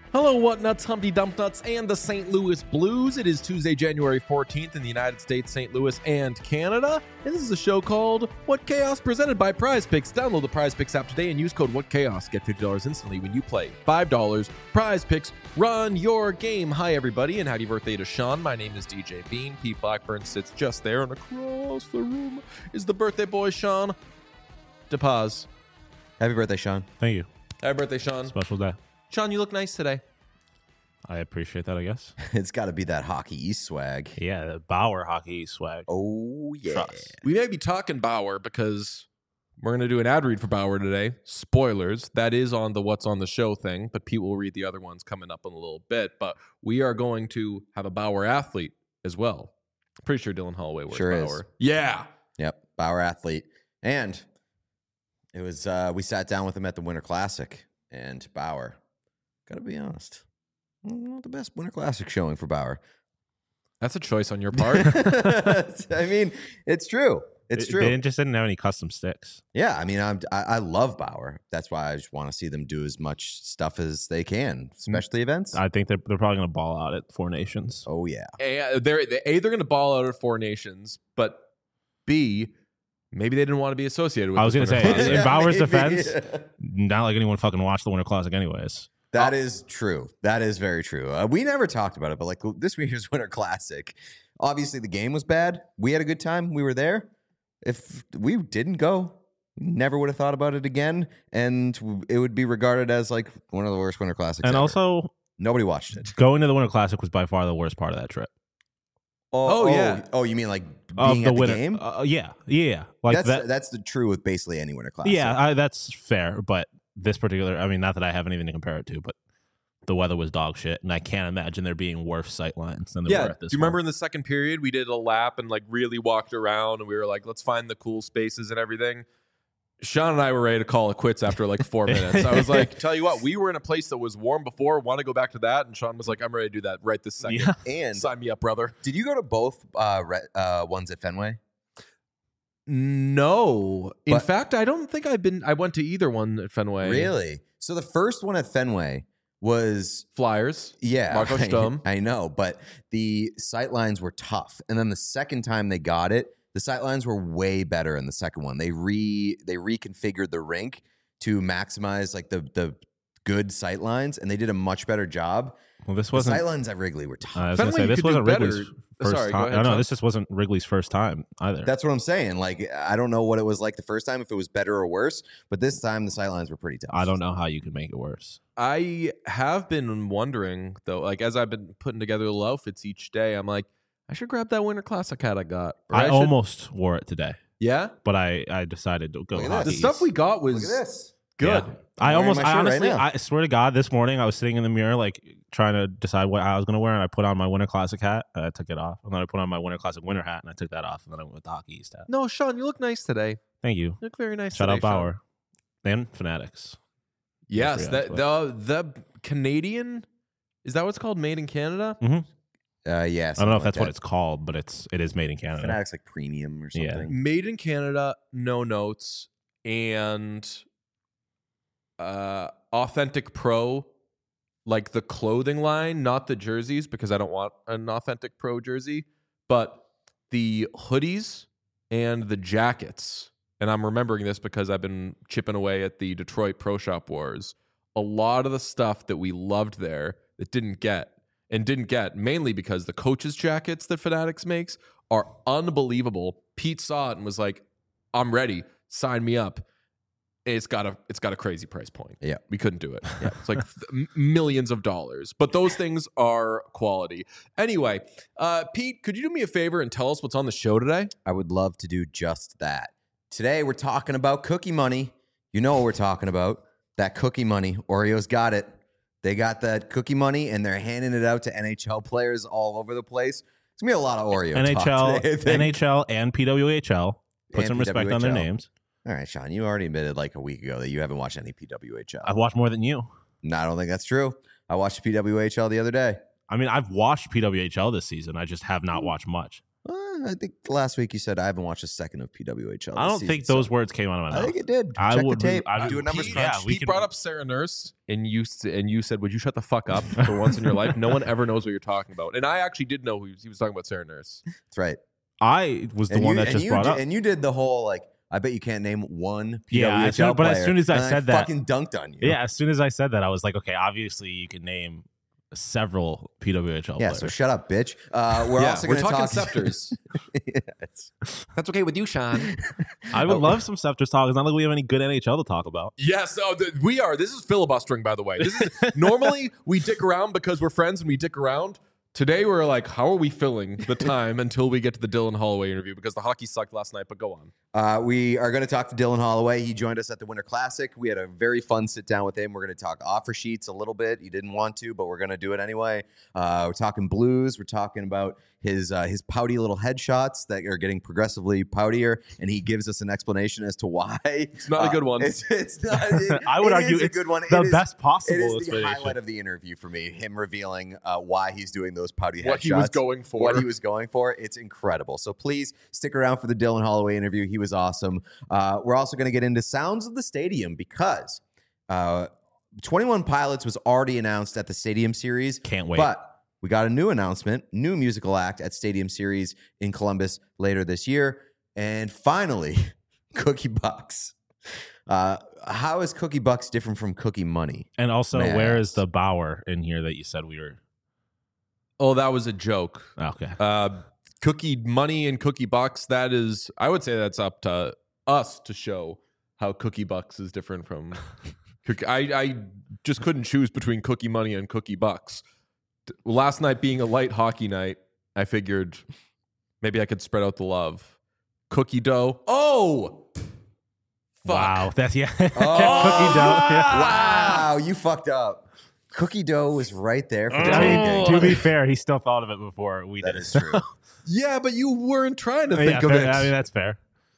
Hello, what nuts, Humpty Dump Nuts, and the St. Louis Blues. It is Tuesday, January 14th in the United States, St. Louis, and Canada. And this is a show called What Chaos, presented by Prize Picks. Download the Prize Picks app today and use code What Chaos. Get $50 instantly when you play. $5. Prize Picks. Run your game. Hi, everybody, and happy birthday to Sean. My name is DJ Bean. Pete Blackburn sits just there, and across the room is the birthday boy, Sean DePaz. Happy birthday, Sean. Thank you. Happy birthday, Sean. Special day. Sean, you look nice today. I appreciate that, I guess. It's got to be that Hockey East swag. Yeah, the Bauer Hockey swag. Oh, yeah. Trust. We may be talking Bauer because we're going to do an ad read for Bauer today. Spoilers. That is on the What's on the Show thing, but Pete will read the other ones coming up in a little bit. But we are going to have a Bauer athlete as well. Pretty sure Dylan Holloway wears Sure Bauer. is. Yeah. Yep, Bauer athlete. And it was, we sat down with him at the Winter Classic, and Bauer, got to be honest, not the best Winter Classic showing for Bauer. That's a choice on your part. I mean, it's true. It's true. They just didn't have any custom sticks. Yeah, I mean, I love Bauer. That's why I just want to see them do as much stuff as they can, especially events. I think they're probably going to ball out at Four Nations. Oh, yeah. They're going to ball out at Four Nations, but B, maybe they didn't want to be associated with I was going to say, in Bauer's maybe. defense, not like anyone fucking watched the Winter Classic anyways. That is true. That is very true. We never talked about it, but like this year's Winter Classic, obviously the game was bad. We had a good time. We were there. If we didn't go, never would have thought about it again, and it would be regarded as like one of the worst Winter Classics And ever. also, Nobody watched it. going to the Winter Classic was by far the worst part of that trip. Oh, yeah. Oh, you mean like Of being the at the winter game? Yeah. Like That's the true with basically any Winter Classic. Yeah, that's fair. But this particular, I mean, not that I have anything to compare it to, but the weather was dog shit, and I can't imagine there being worse sight lines than there Yeah. were Do at this you remember one. in the second period, we did a lap and like really walked around and we were like, let's find the cool spaces and everything. Sean and I were ready to call it quits after like 4 minutes. I was like, tell you what, we were in a place that was warm before. Want to go back to that? And Sean was like, I'm ready to do that right this second. Yeah. And Sign me up, brother. did you go to both ones at Fenway? No. In But- fact, I don't think I went to either one at Fenway. Really? So the first one at Fenway was Flyers. Yeah, Marco Sturm. I know, but the sight lines were tough. And then the second time they got it, the sight lines were way better in the second one. They reconfigured the rink to maximize like the good sight lines, and they did a much better job. Well, this The wasn't. sight lines at Wrigley were tough. I was going to Fenway, say, you this could do wasn't Wrigley's better. first Sorry, go time. ahead, I know, Sean. this just wasn't Wrigley's first time either. That's what I'm saying. Like, I don't know what it was like the first time, if it was better or worse, but this time the sight lines were pretty tough. I don't know how you could make it worse. I have been wondering, though, like as I've been putting together the outfits each day, I'm like, I should grab that Winter Classic hat I got. Or I should- almost wore it today, Yeah? but I decided to go Look at this. hockey. The stuff we got was Look at this. good. Yeah. I'm wearing my shirt right honestly, now. I swear to God, this morning I was sitting in the mirror, like trying to decide what I was going to wear, and I put on my Winter Classic hat, and I took it off, and then I put on my Winter Classic winter hat, and I took that off, and then I went with the Hockey East hat. No, Sean, you look nice today. Thank you. You look very nice Shout today, out Bauer and Fanatics. Yes, Yeah, the Canadian, is that what's called? Made in Canada? Yeah. I don't know if that's what it's called, but it is made in Canada. Fanatics like premium or Yeah. something. Made in Canada, no notes, and Authentic Pro, like the clothing line, not the jerseys, because I don't want an Authentic Pro jersey, but the hoodies and the jackets. And I'm remembering this because I've been chipping away at the Detroit Pro Shop Wars. A lot of the stuff that we loved there that didn't get mainly because the coaches' jackets that Fanatics makes are unbelievable. Pete saw it and was like, I'm ready. Sign me up. It's got a crazy price point. Yeah. We couldn't do it. Yeah. It's like millions of dollars. But those things are quality. Anyway, Pete, could you do me a favor and tell us what's on the show today? I would love to do just that. Today, we're talking about cookie money. You know what we're talking about. That cookie money. Oreo's got it. They got that cookie money, and they're handing it out to NHL players all over the place. It's going to be a lot of Oreo talk today, I think. NHL and PWHL. Put And some respect on their PWHL. names. All right, Sean, you already admitted like a week ago that you haven't watched any PWHL. I've watched more than you. No, I don't think that's true. I watched PWHL the other day. I mean, I've watched PWHL this season. I just have not watched much. I think last week you saed I haven't watched a second of PWHL. I don't think those words came out of my mouth. I think it did. I Check would- the tape. I- Do a numbers Pete, crunch. we Pete can- brought up Sarah Nurse, and you said, "Would you shut the fuck up for once in your life?" No one ever knows what you're talking about, and I actually did know he was talking about Sarah Nurse. That's right. I was the one that just brought up. And you did the whole like. I bet you can't name one PWHL Yeah, as soon- but as player, soon as I and said that- fucking dunked on you. Yeah, as soon as I said that, I was like, okay, obviously you can name several PWHL Yeah. players. So shut up, bitch. We're also we're going to talking talk Scepters. Yes. That's okay with you, Sean. I would love some Scepters talk. It's not like we have any good NHL to talk about. Yes, we are. This is filibustering, by the way. This is normally we dick around because we're friends and we dick around. Today we're like, how are we filling the time until we get to the Dylan Holloway interview? Because the hockey sucked last night, but go on. We are going to talk to Dylan Holloway. He joined us at the Winter Classic. We had a very fun sit down with him. We're going to talk offer sheets a little bit. He didn't want to, but we're going to do it anyway. We're talking Blues. We're talking about his pouty little headshots that are getting progressively poutier, and he gives us an explanation as to why. It's not a good one. It's not. I would it argue is a it's good one. the It is- best possible It is the explanation. highlight of the interview for me. Him revealing why he's doing those pouty headshots. What he was going for. What he was going for. It's incredible. So please stick around for the Dylan Holloway interview. He was awesome. We're also going to get into Sounds of the Stadium because 21 Pilots was already announced at the Stadium Series. Can't wait. But we got a new announcement, new musical act at Stadium Series in Columbus later this year. And finally, Cookie Bucks. How is Cookie Bucks different from Cookie Money? And also, May I where ask? is the Bauer in here that you said we were? Oh, that was a joke. Okay. Cookie Money and Cookie Bucks, that is, I would say that's up to us to show how Cookie Bucks is different from Cookie. I just couldn't choose between Cookie Money and Cookie Bucks. Last night being a light hockey night, I figured maybe I could spread out the love. Cookie dough. Oh! Fuck. Wow. That's yeah. Oh! Cookie dough. Yeah. Wow, you fucked up. Cookie dough was right there for I taking. mean, to be fair, he still thought of it before we That did. is true. Yeah, but you weren't trying to Yeah, think of fair- it. I mean, that's fair.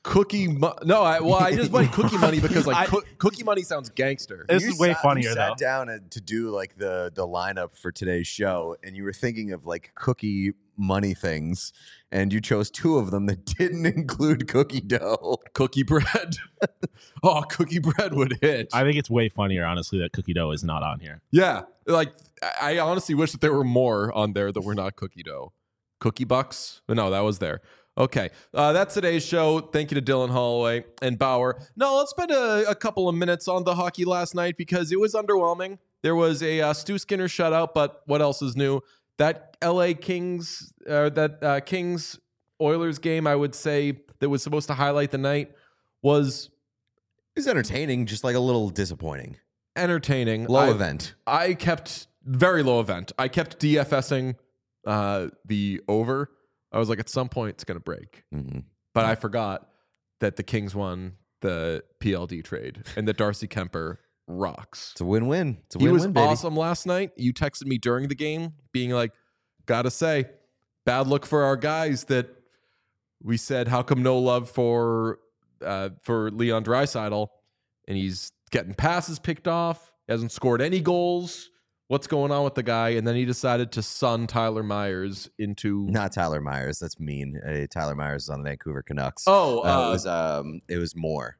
No, I just went Cookie Money because like Cookie Money sounds gangster. This You is way sat- funnier, you though. sat down to do like the lineup for today's show, and you were thinking of like Cookie Money things, and you chose two of them that didn't include cookie dough. Cookie bread. Oh, cookie bread would hit. I think it's way funnier, honestly, that cookie dough is not on here. Yeah, like I honestly wish that there were more on there that were not cookie dough. Cookie Bucks? No, that was there. Okay, that's today's show. Thank you to Dylan Holloway and Bauer. No, let's spend a couple of minutes on the hockey last night because it was underwhelming. There was a Stu Skinner shutout, but what else is new? That LA Kings, Kings Oilers game, I would say that was supposed to highlight the night was It was entertaining, just like a little disappointing. entertaining. Low event. I kept very low event. I kept DFSing the over. I was like, at some point it's going to break. Mm-hmm. But I forgot that the Kings won the PLD trade and that Darcy Kemper rocks. It's a win-win. It's a He was win-win, baby. awesome last night. You texted me during the game being like, gotta say, bad look for our guys that we said, how come no love for Leon Draisaitl? And he's getting passes picked off, hasn't scored any goals. What's going on with the guy? And then he decided to sun Tyler Myers into Not Tyler Myers. That's mean. Tyler Myers is on the Vancouver Canucks. It was Moore.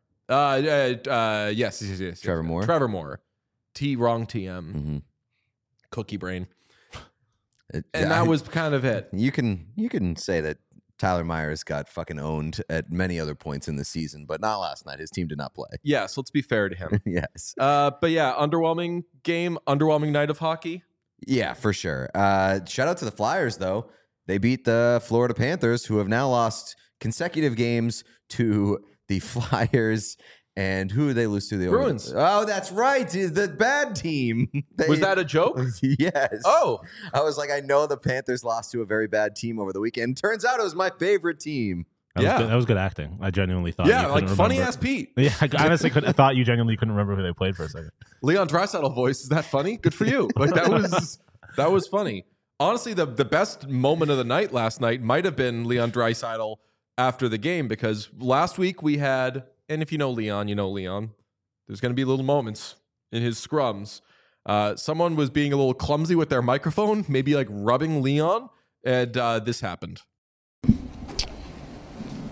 yes. Trevor Moore? Trevor Moore. Wrong TM. Mm-hmm. Cookie brain. And that was kind of it. You can say that Tyler Myers got fucking owned at many other points in the season, but not last night. His team did not play. Yes, let's be fair to him. Yes. But yeah, underwhelming game, underwhelming night of hockey. Yeah, for sure. Shout out to the Flyers, though. They beat the Florida Panthers, who have now lost consecutive games to the Flyers. And who did they lose to? The Bruins. Oh, that's right. The bad team. Was that a joke? Yes. Oh, I was like, I know the Panthers lost to a very bad team over the weekend. Turns out it was my favorite team. That was good acting. I genuinely thought. yeah, you like couldn't funny remember. ass Pete. Yeah, I honestly I thought you genuinely couldn't remember who they played for a second. Leon Draisaitl voice, is that funny? Good for you. Like that was funny. Honestly, the best moment of the night last night might have been Leon Draisaitl after the game because last week we had, and if you know Leon, there's going to be little moments in his scrums. Someone was being a little clumsy with their microphone, maybe like rubbing Leon, and this happened.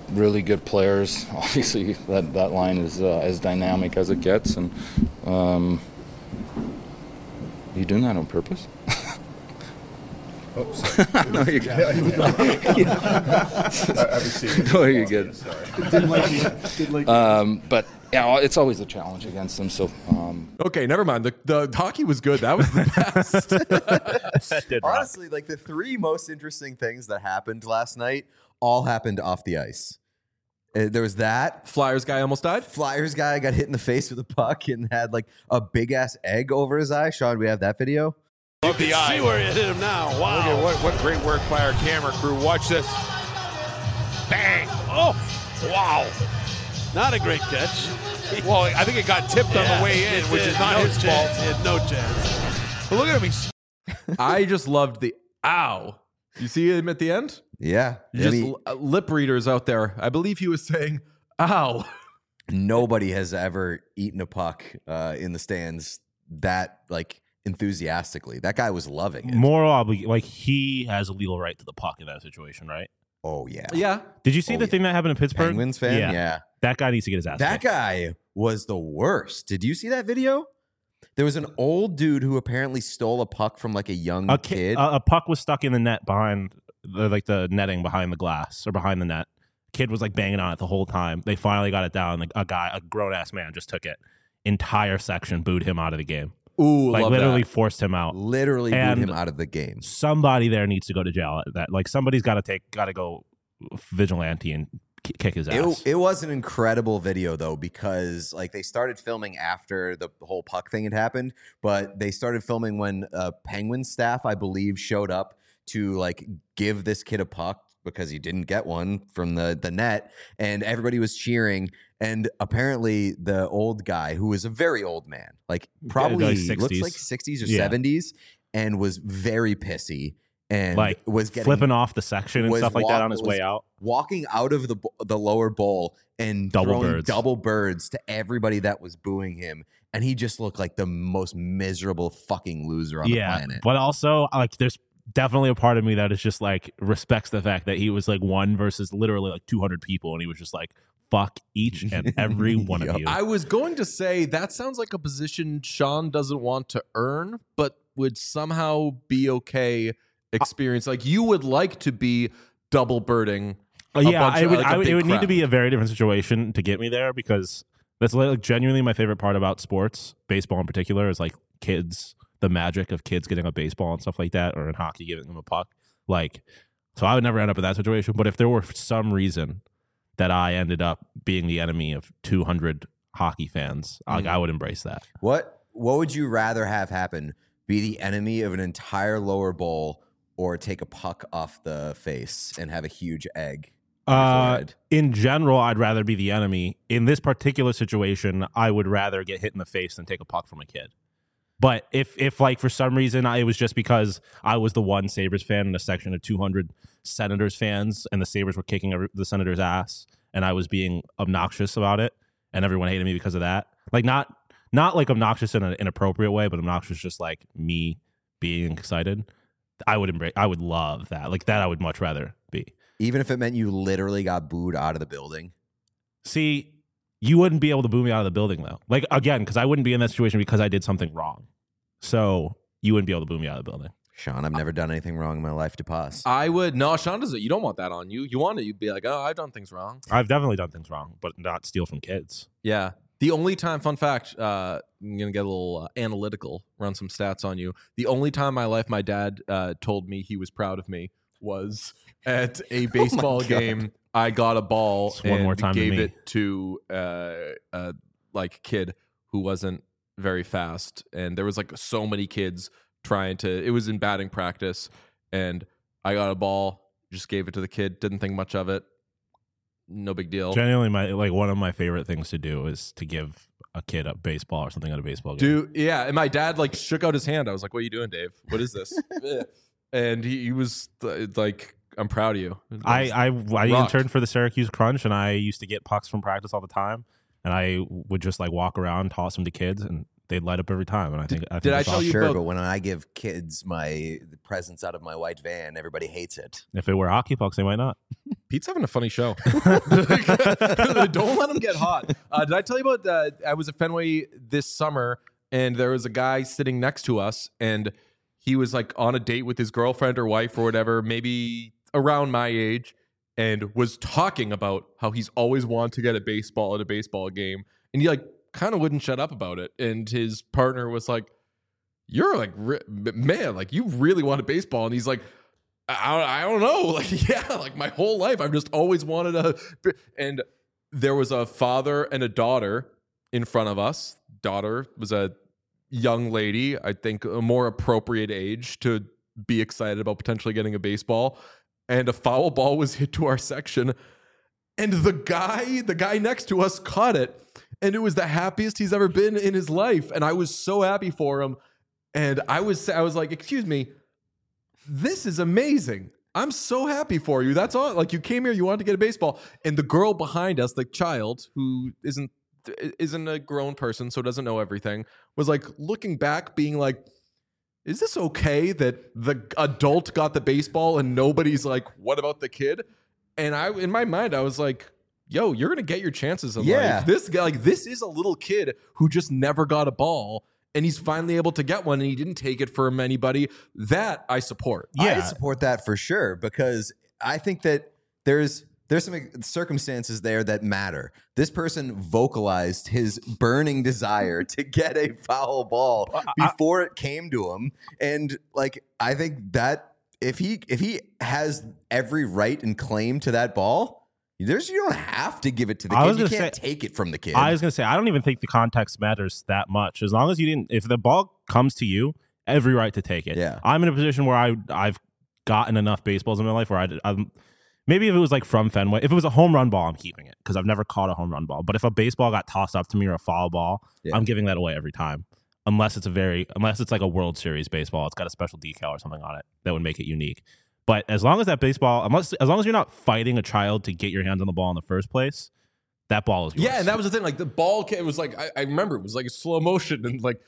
really good players. Obviously, that line is as dynamic as it gets. And you doing that on purpose? Oh, sorry. No, you're good. I was seeing. No, you're good. Sorry. But yeah, it's always a challenge against them. So Okay, never mind. The hockey was good. That was the best. Honestly, like the three most interesting things that happened last night all happened off the ice. There was that. Flyers guy almost died. Flyers guy got hit in the face with a puck and had like a big ass egg over his eye. Sean, we have that video. You can see where it hit him now. Wow. Look at what great work by our camera crew. Watch this. Bang. Oh, wow. Not a great catch. Well, I think it got tipped on the way in, which is not his fault. He had no chance. But look at him. I just loved the ow. You see him at the end? Yeah. Just lip readers out there. I believe he was saying ow. Nobody has ever eaten a puck in the stands that like enthusiastically. That guy was loving it. Like he has a legal right to the puck in that situation, right? Oh yeah. Yeah. Did you see the thing that happened in Pittsburgh? Penguins fan? Yeah. That guy needs to get his ass That kicked. guy was the worst. Did you see that video? There was an old dude who apparently stole a puck from like a young kid. A puck was stuck in the net behind the netting behind the glass or behind the net. Kid was like banging on it the whole time. They finally got it down. Like a grown ass man just took it. Entire section booed him out of the game. Ooh, like love literally that. forced him out. Literally booed And him out of the game. Somebody there needs to go to jail. That like somebody's got to go vigilante and kick his ass. It was an incredible video though, because like they started filming after the whole puck thing had happened, but they started filming when Penguin staff, I believe, showed up to like give this kid a puck because he didn't get one from the net, and everybody was cheering. And apparently the old guy, who was a very old man, like probably like looks 60s. like 60s or Yeah. 70s, and was very pissy and like was getting flipping off the section and was stuff like that walk- on his was way out. walking out of the lower bowl and Double throwing birds. double birds to everybody that was booing him, and he just looked like the most miserable fucking loser on the planet. But also, like, there's definitely a part of me that is just like respects the fact that he was like one versus literally like 200 people, and he was just like, fuck each and every one of you. I was going to say that sounds like a position Sean doesn't want to earn, but would somehow be okay experience. Like you would like to be double birding. Yeah, it it would need to be a very different situation to get me there, because that's like genuinely my favorite part about sports, baseball in particular, is like kids, the magic of kids getting a baseball and stuff like that, or in hockey giving them a puck. Like, so I would never end up in that situation. But if there were some reason that I ended up being the enemy of 200 hockey fans, like, I would embrace that. What would you rather have happen? Be the enemy of an entire lower bowl, or take a puck off the face and have a huge egg? on your forehead? In general, I'd rather be the enemy. In this particular situation, I would rather get hit in the face than take a puck from a kid. But if like for some reason it was just because I was the one Sabres fan in a section of 200 Senators fans, and the Sabres were kicking the Senators' ass, and I was being obnoxious about it, and everyone hated me because of that. Like not like obnoxious in an inappropriate way, but obnoxious just like me being excited. I would love that. Like that I would much rather be. Even if it meant you literally got booed out of the building. See, you wouldn't be able to boo me out of the building though. Like again, because I wouldn't be in that situation because I did something wrong. So you wouldn't be able to boo me out of the building. Sean, I've never done anything wrong in my life to pause. I would. No, Sean doesn't. You don't want that on you. You want it. You'd be like, oh, I've done things wrong. I've definitely done things wrong, but not steal from kids. Yeah. The only time, fun fact, I'm going to get a little analytical, run some stats on you. The only time in my life my dad told me he was proud of me was at a baseball game. I got a ball Just and one more time than gave me. it to like kid who wasn't very fast. And there was like so many kids trying to, it was in batting practice. And I got a ball, just gave it to the kid, didn't think much of it. No big deal. Genuinely, one of my favorite things to do is to give a kid a baseball or something at a baseball game. Dude, yeah. And my dad like shook out his hand. I was like, what are you doing, Dave? What is this? And he was like, I'm proud of you. I rocked. interned for the Syracuse Crunch, and I used to get pucks from practice all the time, and I would just like walk around, toss them to kids, and they'd light up every time. And I think did I that's tell awesome. you Sure, about- but when I give kids my presents out of my white van, everybody hates it. If it were hockey pucks, they might not. Pete's having a funny show. Don't let him get hot. Did I tell you about I was at Fenway this summer, and there was a guy sitting next to us, and he was like on a date with his girlfriend or wife or whatever, maybe around my age, and was talking about how he's always wanted to get a baseball at a baseball game. And he like kind of wouldn't shut up about it. And his partner was like, you're like, man, like you really want a baseball. And he's like, I don't know. Like, yeah, like my whole life, I've just always wanted a. And there was a father and a daughter in front of us. Daughter was a young lady, I think a more appropriate age to be excited about potentially getting a baseball. And a foul ball was hit to our section. And the guy next to us caught it. And it was the happiest he's ever been in his life. And I was so happy for him. And I was like, excuse me, this is amazing. I'm so happy for you. That's all. Like, you came here, you wanted to get a baseball. And the girl behind us, the child who isn't a grown person, so doesn't know everything, was like looking back, being like, is this okay that the adult got the baseball and nobody's like, what about the kid? And in my mind, I was like, yo, you're gonna get your chances in life. This guy, like, this is a little kid who just never got a ball, and he's finally able to get one, and he didn't take it from anybody. That I support. Yeah, I support that for sure, because I think that there's some circumstances there that matter. This person vocalized his burning desire to get a foul ball before it came to him. And like, I think that if he has every right and claim to that ball, you don't have to give it to the kid. You can't take it from the kid. I was going to say, I don't even think the context matters that much. As long as if the ball comes to you, every right to take it. Yeah. I'm in a position where I've gotten enough baseballs in my life where I'm maybe if it was like from Fenway, if it was a home run ball, I'm keeping it because I've never caught a home run ball. But if a baseball got tossed up to me or a foul ball, I'm giving that away every time. Unless it's like a World Series baseball, it's got a special decal or something on it that would make it unique. But as long as that baseball, as long as you're not fighting a child to get your hands on the ball in the first place, that ball is yours. Yeah, and that was the thing. Like, the ball came, it was like, I remember it was like a slow motion and like.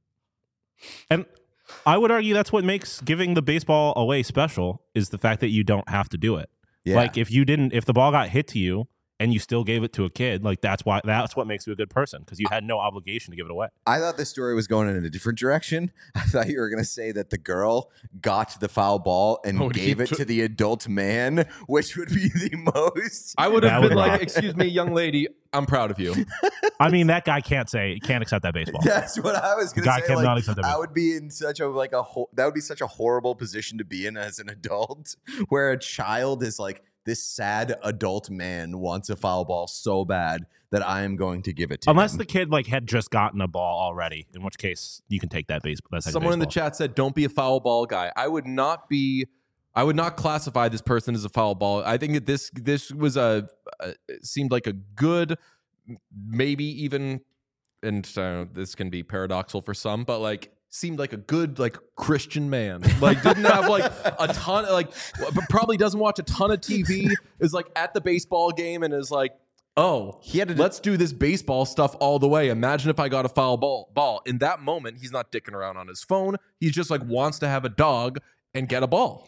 And I would argue that's what makes giving the baseball away special, is the fact that you don't have to do it. Yeah. Like, if the ball got hit to you and you still gave it to a kid, like that's what makes you a good person, because you had no obligation to give it away. I thought this story was going in a different direction. I thought you were going to say that the girl got the foul ball and gave it to the adult man, which would be the most. I would have been like, excuse me, young lady, I'm proud of you. I mean, that guy can't accept that baseball. That's what I was going to say. Guy cannot accept that baseball. I would be in such a that would be such a horrible position to be in as an adult, where a child is like, this sad adult man wants a foul ball so bad that I am going to give it to him. Unless the kid like had just gotten a ball already, in which case you can take that baseball. Someone in the chat said, "Don't be a foul ball guy." I would not classify this person as a foul ball. I think that this was seemed like a good, maybe even, and this can be paradoxical for some, but like, seemed like a good, like, Christian man. Like, didn't have like a ton, like, but probably doesn't watch a ton of TV, is like at the baseball game and is like, oh, let's do this baseball stuff all the way. Imagine if I got a foul ball. In that moment, he's not dicking around on his phone. He's just like wants to have a dog and get a ball.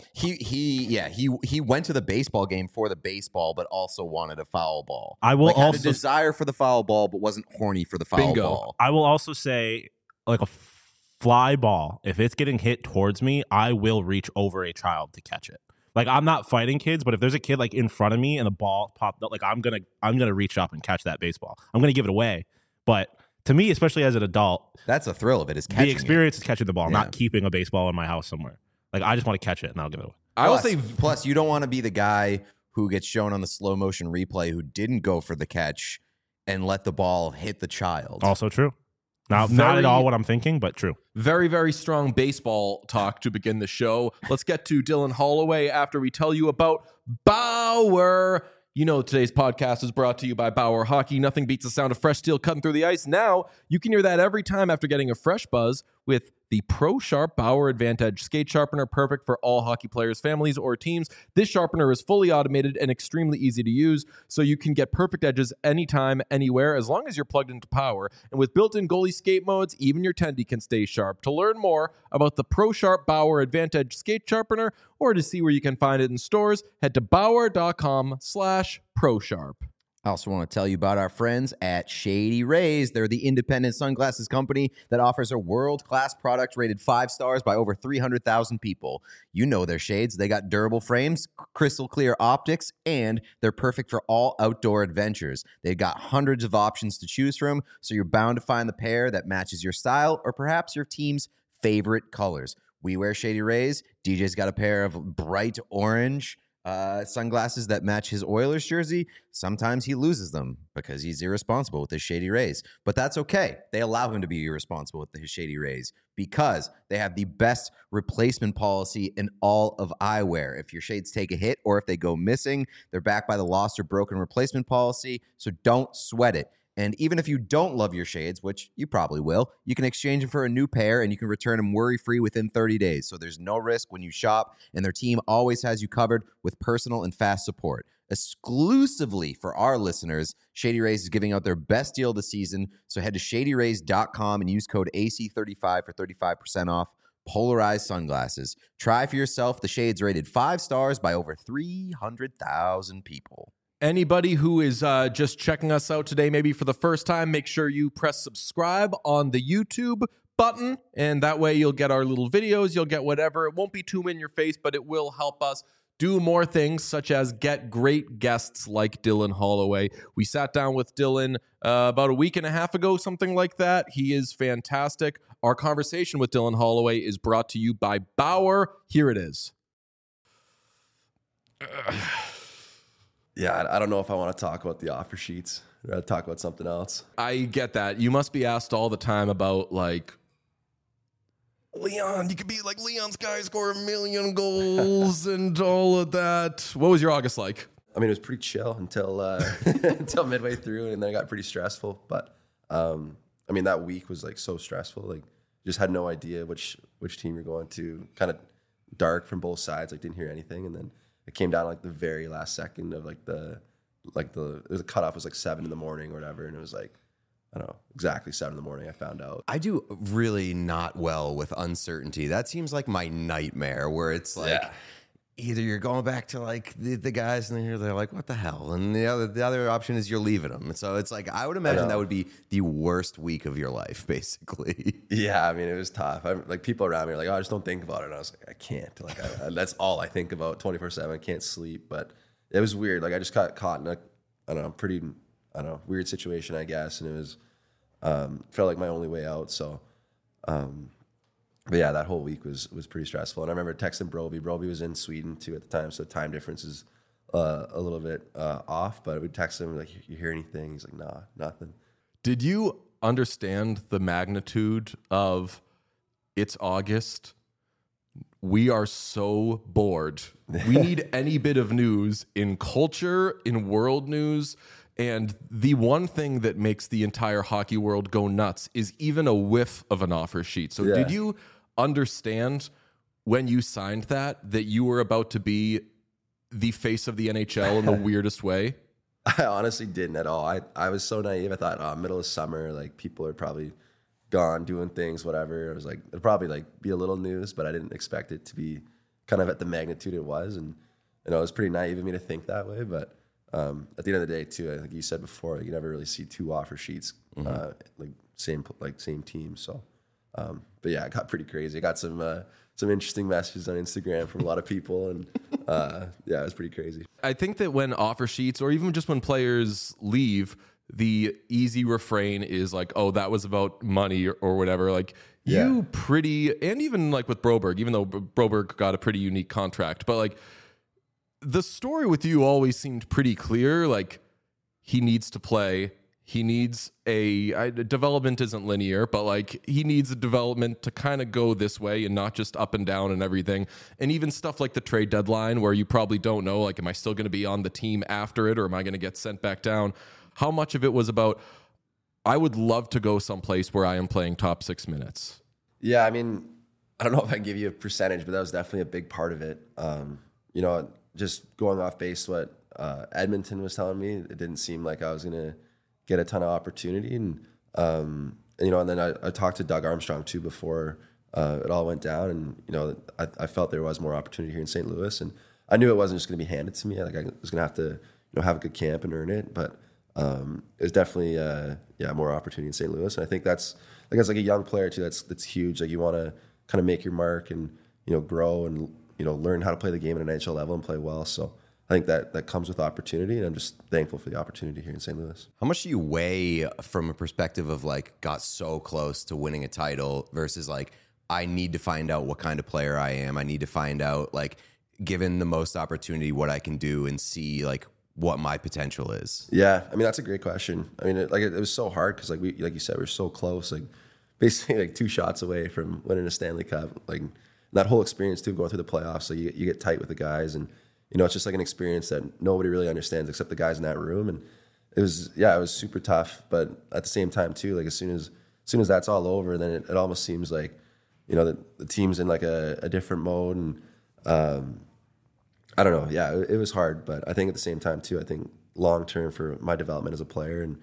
He went to the baseball game for the baseball, but also wanted a foul ball. I will had a desire for the foul ball, but wasn't horny for the foul ball. I will also say, like, a fly ball, if it's getting hit towards me, I will reach over a child to catch it. Like, I'm not fighting kids, but if there's a kid like in front of me and the ball popped up, like, I'm gonna reach up and catch that baseball. I'm gonna give it away. But to me, especially as an adult, that's the thrill of it, is catching the experience is catching the ball, not keeping a baseball in my house somewhere. Like, I just want to catch it and I'll give it away. Plus, you don't want to be the guy who gets shown on the slow motion replay who didn't go for the catch and let the ball hit the child. Also true. Now, not at all what I'm thinking, but true. Very, very strong baseball talk to begin the show. Let's get to Dylan Holloway after we tell you about Bauer. You know, today's podcast is brought to you by Bauer Hockey. Nothing beats the sound of fresh steel cutting through the ice. Now, you can hear that every time after getting a fresh buzz with the Pro Sharp Bauer Advantage Skate Sharpener, perfect for all hockey players, families, or teams. This sharpener is fully automated and extremely easy to use, so you can get perfect edges anytime, anywhere, as long as you're plugged into power. And with built-in goalie skate modes, even your tendy can stay sharp. To learn more about the Pro Sharp Bauer Advantage Skate Sharpener, or to see where you can find it in stores, head to bauer.com/ProSharp. I also want to tell you about our friends at Shady Rays. They're the independent sunglasses company that offers a world-class product rated 5 stars by over 300,000 people. You know their shades. They got durable frames, crystal clear optics, and they're perfect for all outdoor adventures. They've got hundreds of options to choose from, so you're bound to find the pair that matches your style or perhaps your team's favorite colors. We wear Shady Rays. DJ's got a pair of bright orange sunglasses that match his Oilers jersey. Sometimes he loses them because he's irresponsible with his Shady Rays, but that's okay. They allow him to be irresponsible with his Shady Rays because they have the best replacement policy in all of eyewear. If your shades take a hit or if they go missing, they're backed by the lost or broken replacement policy, so don't sweat it. And even if you don't love your shades, which you probably will, you can exchange them for a new pair and you can return them worry-free within 30 days. So there's no risk when you shop, and their team always has you covered with personal and fast support. Exclusively for our listeners, Shady Rays is giving out their best deal of the season. So head to shadyrays.com and use code AC35 for 35% off polarized sunglasses. Try for yourself the shades rated 5 stars by over 300,000 people. Anybody who is just checking us out today, maybe for the first time, make sure you press subscribe on the YouTube button, and that way you'll get our little videos, you'll get whatever. It won't be too in your face, but it will help us do more things, such as get great guests like Dylan Holloway. We sat down with Dylan about a week and a half ago, something like that. He is fantastic. Our conversation with Dylan Holloway is brought to you by Bauer. Here it is. Yeah, I don't know if I want to talk about the offer sheets. I'd rather talk about something else. I get that. You must be asked all the time about, like, Leon, you could be like, Leon's guy score 1 million goals and all of that. What was your August like? I mean, it was pretty chill until until midway through, and then it got pretty stressful. But, I mean, that week was, like, so stressful. Like, just had no idea which team you're going to. Kind of dark from both sides. Like, didn't hear anything, and then it came down like the very last second of the cutoff was like 7 a.m. or whatever, and it was like, I don't know, exactly 7 a.m. I found out. I do really not well with uncertainty. That seems like my nightmare, where it's like either you're going back to like the guys and they're like, what the hell? And the other option is you're leaving them. And so it's like, I would imagine that would be the worst week of your life, basically. Yeah, I mean, it was tough. Like people around me are like, oh, just don't think about it. And I was like, I can't. Like that's all I think about 24/7. I can't sleep. But it was weird. Like I just got caught in a weird situation, I guess. And it was felt like my only way out. So but yeah, that whole week was pretty stressful. And I remember texting Broby. Broby was in Sweden too at the time, so time difference is a little bit off. But we'd text him like, "You hear anything?" He's like, "Nah, nothing." Did you understand the magnitude of it's August? We are so bored. We need any bit of news in culture, in world news. And the one thing that makes the entire hockey world go nuts is even a whiff of an offer sheet. So did you understand when you signed that you were about to be the face of the NHL in the weirdest way? I honestly didn't at all. I was so naive. I thought, middle of summer, like people are probably gone doing things, whatever. I was like, it'd probably like be a little news, but I didn't expect it to be kind of at the magnitude it was. And it was pretty naive of me to think that way. But at the end of the day, too, I think you said before, you never really see 2 offer sheets, same team. So, but yeah, it got pretty crazy. I got some interesting messages on Instagram from a lot of people, and yeah, it was pretty crazy. I think that when offer sheets, or even just when players leave, the easy refrain is like, "Oh, that was about money," or whatever. Like you pretty, and even like with Broberg, even though Broberg got a pretty unique contract, but like the story with you always seemed pretty clear. Like he needs to play. He needs development isn't linear, but like he needs a development to kind of go this way and not just up and down and everything. And even stuff like the trade deadline where you probably don't know, like, am I still going to be on the team after it, or am I going to get sent back down? How much of it was about, I would love to go someplace where I am playing top 6 minutes? Yeah, I mean, I don't know if I can give you a percentage, but that was definitely a big part of it. You know, just going off base what Edmonton was telling me, it didn't seem like I was going to get a ton of opportunity. And you know, and then I talked to Doug Armstrong too before it all went down. And, you know, I felt there was more opportunity here in St. Louis. And I knew it wasn't just going to be handed to me. Like, I was going to have to, you know, have a good camp and earn it. But it was definitely, more opportunity in St. Louis. And I think that's like a young player too. That's huge. Like, you want to kind of make your mark and, you know, grow and, you know, learn how to play the game at an NHL level and play well. So I think that comes with opportunity, and I'm just thankful for the opportunity here in St. Louis. How much do you weigh from a perspective of like got so close to winning a title versus like I need to find out what kind of player I am. I need to find out, like, given the most opportunity, what I can do and see like what my potential is? Yeah, I mean, that's a great question. I mean, it was so hard because like you said, we were so close, like basically like 2 shots away from winning a Stanley Cup. Like that whole experience too, going through the playoffs. So you get tight with the guys, and you know, it's just like an experience that nobody really understands except the guys in that room. And it was super tough, but at the same time too, like as soon as that's all over, then it almost seems like, you know, the team's in like a different mode. And I don't know. Yeah, it was hard, but I think at the same time too, I think long term for my development as a player, and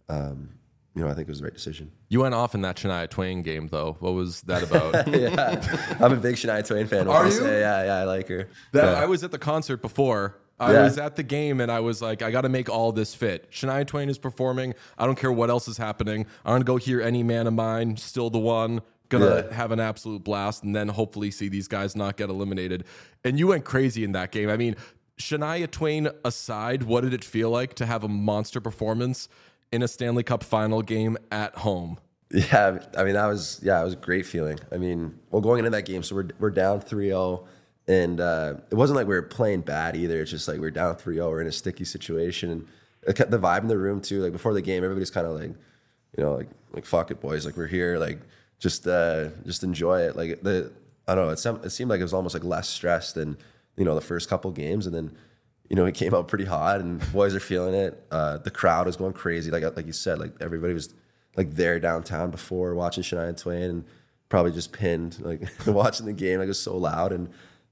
you know, I think it was the right decision. You went off in that Shania Twain game, though. What was that about? Yeah, I'm a big Shania Twain fan. Are you? Yeah, I like her. I was at the concert before. I was at the game, and I was like, I got to make all this fit. Shania Twain is performing. I don't care what else is happening. I'm going to go hear Any Man of Mine, Still the One. Gonna have an absolute blast, and then hopefully see these guys not get eliminated. And you went crazy in that game. I mean, Shania Twain aside, what did it feel like to have a monster performance in a Stanley Cup final game at home? Yeah, I mean, it was a great feeling. I mean, well, going into that game, so we're down 3-0, and it wasn't like we were playing bad either. It's just like we're down 3-0, we're in a sticky situation, and the vibe in the room too. Like before the game, everybody's kind of like, you know, like fuck it, boys, like we're here, like just enjoy it. Like I don't know, it seemed like it was almost like less stress than, you know, the first couple games, and then, you know, it came out pretty hot, and boys are feeling it. The crowd was going crazy, like you said, like everybody was like there downtown before watching Shania Twain, and probably just pinned like watching the game. Like it was so loud, and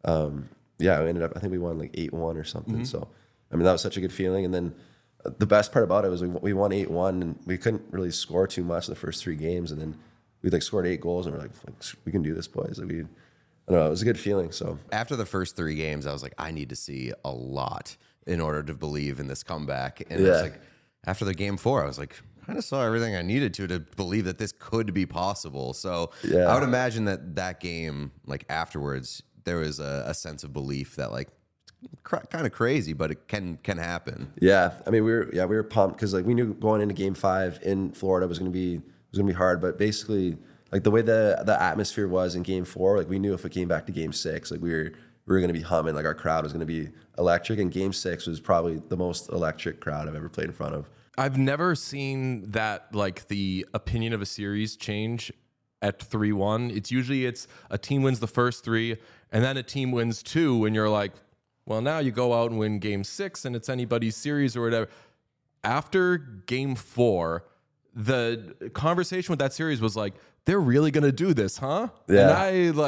we ended up, I think we won like 8-1 or something. Mm-hmm. So I mean, that was such a good feeling. And then the best part about it was we won 8-1, and we couldn't really score too much in the first 3 games, and then we like scored 8 goals, and we're like we can do this, boys. Like I don't know, it was a good feeling. So after the first 3 games, I was like, I need to see a lot in order to believe in this comeback. And I was like, after the game 4, I was like, kind of saw everything I needed to believe that this could be possible. So I would imagine that game, like afterwards, there was a sense of belief that like kind of crazy, but it can happen. Yeah, I mean we were pumped because like we knew going into Game 5 in Florida was gonna be hard, but basically like the way the atmosphere was in Game 4, like we knew if it came back to Game 6, like we were gonna be humming, like our crowd was gonna be electric, and Game 6 was probably the most electric crowd I've ever played in front of. I've never seen that, like the opinion of a series change at 3-1. It's usually a team wins the first 3 and then a team wins 2, and you're like, well, now you go out and win Game 6 and it's anybody's series or whatever. After Game 4, the conversation with that series was like, they're really gonna do this, huh? Yeah.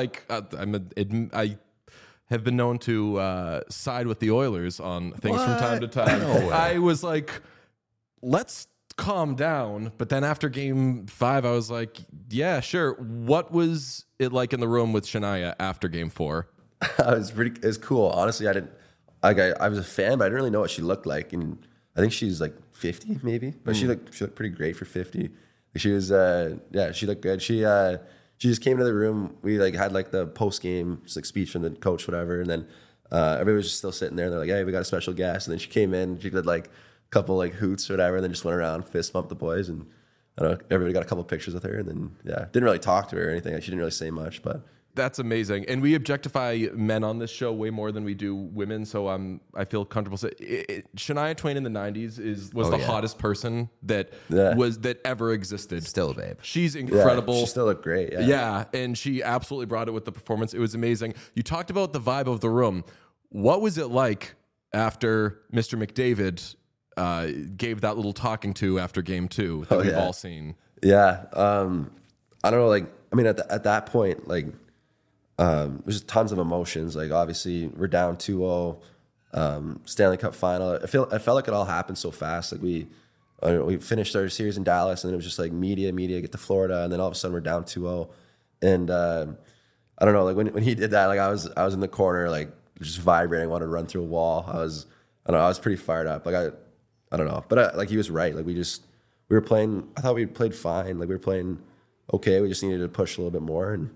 And I have been known to side with the Oilers on things from time to time. No way. I was like, let's calm down. But then after Game 5, I was like, yeah, sure. What was it like in the room with Shania after Game 4? It was cool. Honestly, I was a fan, but I didn't really know what she looked like. And I think she's like 50 maybe, but she looked pretty great for 50. She was, she looked good. She just came into the room. We like had like the post game like speech from the coach, whatever. And then everybody was just still sitting there, and they're like, hey, we got a special guest. And then she came in, she did like a couple like hoots or whatever, and then just went around, fist bumped the boys, and I don't know, everybody got a couple pictures with her, and then didn't really talk to her or anything. She didn't really say much, but that's amazing. And we objectify men on this show way more than we do women, so I feel comfortable saying Shania Twain in the 90s was the hottest person that ever existed. Still a babe. She's incredible. She still looked great. Yeah, and she absolutely brought it with the performance. It was amazing. You talked about the vibe of the room. What was it like after Mr. McDavid gave that little talking to after Game 2 that we've all seen? Yeah. I don't know, like, I mean, at that point, like, there's tons of emotions. Like, obviously, we're down 2-0, Stanley Cup final. I felt like it all happened so fast. Like, we finished our series in Dallas, and then it was just like media, get to Florida, and then all of a sudden we're down 2-0. And I don't know, like when he did that, like I was in the corner, like just vibrating, wanted to run through a wall. I was pretty fired up. Like I don't know, but like he was right. Like we were playing. I thought we played fine. Like we were playing okay. We just needed to push a little bit more. And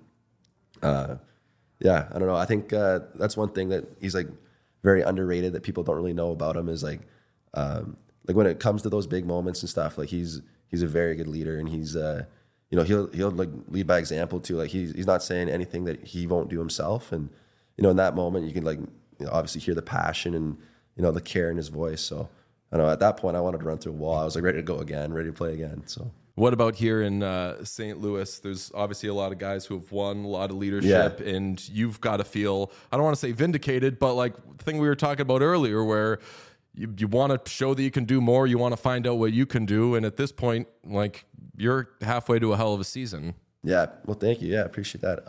yeah, I don't know. I think that's one thing that he's like very underrated that people don't really know about him is like when it comes to those big moments and stuff. Like he's a very good leader, and he's he'll like lead by example too. Like he's not saying anything that he won't do himself. And in that moment, you can like obviously hear the passion and the care in his voice. So I don't know. At that point, I wanted to run through a wall. I was like ready to go again, ready to play again. So. What about here in St. Louis? There's obviously a lot of guys who have won, a lot of leadership, and you've got to feel, I don't want to say vindicated, but like the thing we were talking about earlier where you want to show that you can do more, you want to find out what you can do, and at this point, like, you're halfway to a hell of a season. Yeah, well, thank you. Yeah, I appreciate that.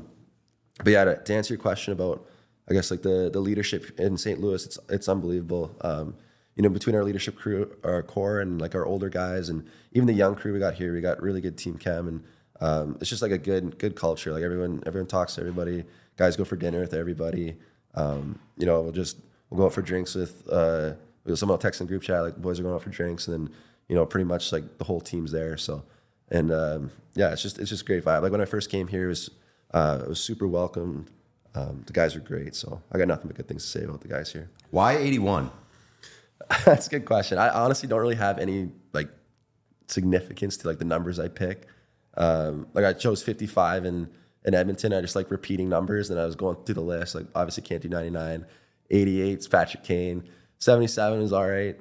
But yeah, to answer your question about, I guess, like the leadership in St. Louis, it's unbelievable. Between our leadership crew, our core, and like our older guys, and even the young crew we got here, we got really good team chem, and it's just like a good culture. Like everyone talks to everybody. Guys go for dinner with everybody. We'll go out for drinks with someone will text in the group chat like boys are going out for drinks, and then pretty much like the whole team's there. So and it's just great vibe. Like when I first came here, it was super welcomed. The guys were great, so I got nothing but good things to say about the guys here. Why 81? That's a good question. I honestly don't really have any like significance to like the numbers I pick. Like I chose 55 in Edmonton. I just like repeating numbers, and I was going through the list. Like obviously can't do 99. 88 is Patrick Kane. 77 is all right.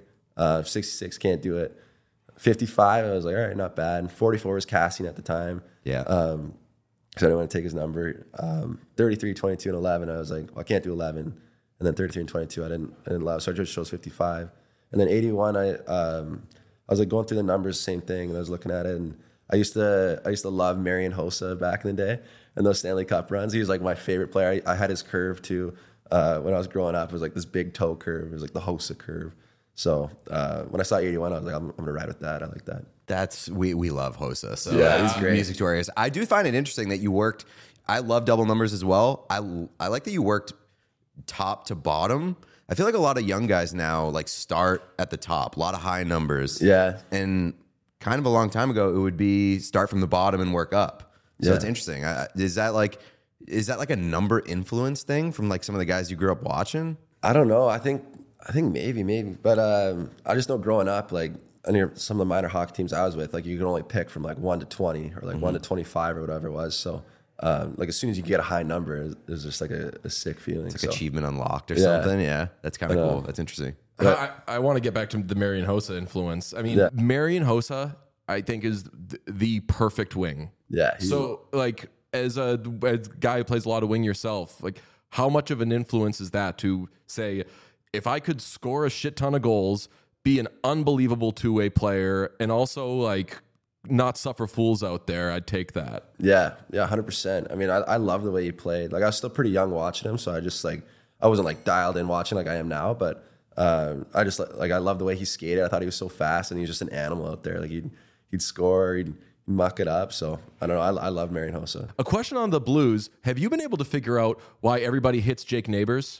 66 can't do it. 55 I was like all right, not bad. 44 was Cassian at the time. Yeah. Because I didn't want to take his number. 33, 22, and 11. I was like, well, I can't do 11. And then 33 and 22, I didn't love. So I just chose 55. And then 81, I was like going through the numbers, same thing, and I was looking at it. And I used to love Marian Hossa back in the day, and those Stanley Cup runs. He was like my favorite player. I had his curve too. When I was growing up, it was like this big toe curve. It was like the Hossa curve. So when I saw 81, I was like, I'm gonna ride with that. I like that. We love Hossa. So yeah, he's great. Music to our ears. I do find it interesting that you worked. I love double numbers as well. I like that you worked top to bottom. I feel like a lot of young guys now like start at the top, a lot of high numbers. Yeah. And kind of a long time ago, it would be start from the bottom and work up. So it's interesting. Is that like a number influence thing from like some of the guys you grew up watching? I don't know. I think maybe, but I just know growing up, like some of the minor hockey teams I was with, like you could only pick from like 1 to 20 or like 1 to 25 or whatever it was. So like as soon as you get a high number, there's just like a sick feeling. It's like achievement unlocked or something. Yeah, that's kind of cool. That's interesting. I want to get back to the Marian Hossa influence. I mean, Marian Hossa, I think, is the perfect wing. Yeah. So like as a guy who plays a lot of wing yourself, like how much of an influence is that to say, if I could score a shit ton of goals, be an unbelievable two-way player, and also like not suffer fools out there, I'd take that. Yeah, 100%. I mean, I love the way he played. Like I was still pretty young watching him, so I just like I wasn't like dialed in watching like I am now, but I just like I love the way he skated. I thought he was so fast, and he was just an animal out there. Like he'd score, he'd muck it up. So I don't know. I love Marian Hossa. A question on the Blues: have you been able to figure out why everybody hits Jake Neighbors?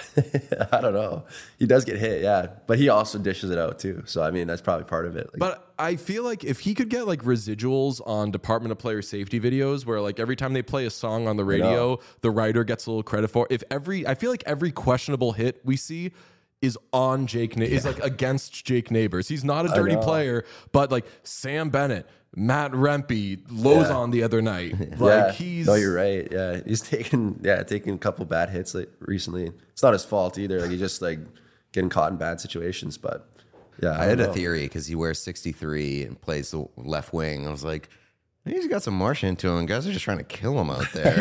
I don't know. He does get hit, yeah, but he also dishes it out too. So I mean, that's probably part of it. Like, but I feel like if he could get like residuals on Department of Player Safety videos, where like every time they play a song on the radio, the writer gets a little credit for. I feel like every questionable hit we see is on Jake. Is like against Jake Neighbors. He's not a dirty player, but like Sam Bennett, Matt Rempe, Lozon the other night. Like he's. No, you're right. Yeah, he's taken a couple bad hits like recently. It's not his fault either. Like he's just like getting caught in bad situations. But yeah, I had a theory because he wears 63 and plays the left wing. I was like, he's got some Martian to him. Guys are just trying to kill him out there.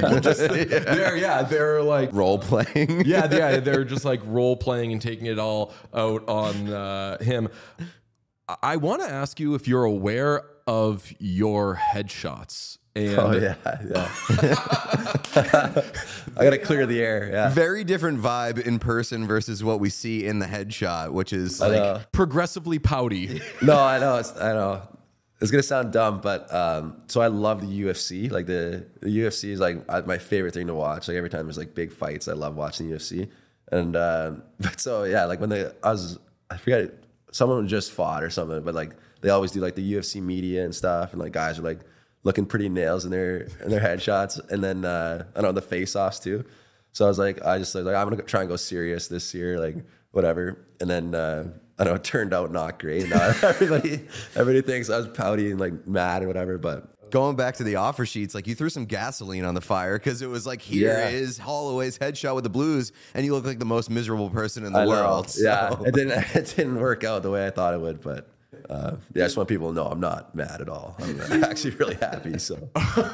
They're like role playing. They're just like role playing and taking it all out on him. I want to ask you if you're aware of your headshots And Oh yeah. I gotta clear the air. Yeah. Very different vibe in person versus what we see in the headshot, which is I like know. progressively pouty. No, I know. I know. It's gonna sound dumb, but so I love the UFC. Like the UFC is like my favorite thing to watch. Like every time there's like big fights, I love watching the UFC. And but so yeah, like when I forget, someone just fought or something, but like they always do like the UFC media and stuff, and like guys are like looking pretty nails in their headshots, and then I don't know, the face-offs too. So I was like, I'm gonna try and go serious this year, like whatever. And then I don't know, it turned out not great. Now everybody thinks I was pouty and like mad or whatever, but going back to the offer sheets, like you threw some gasoline on the fire because it was like, here is Holloway's headshot with the Blues, and you look like the most miserable person in the world. Yeah, So. it didn't work out the way I thought it would, but I just want people to know I'm not mad at all. I'm actually really happy. So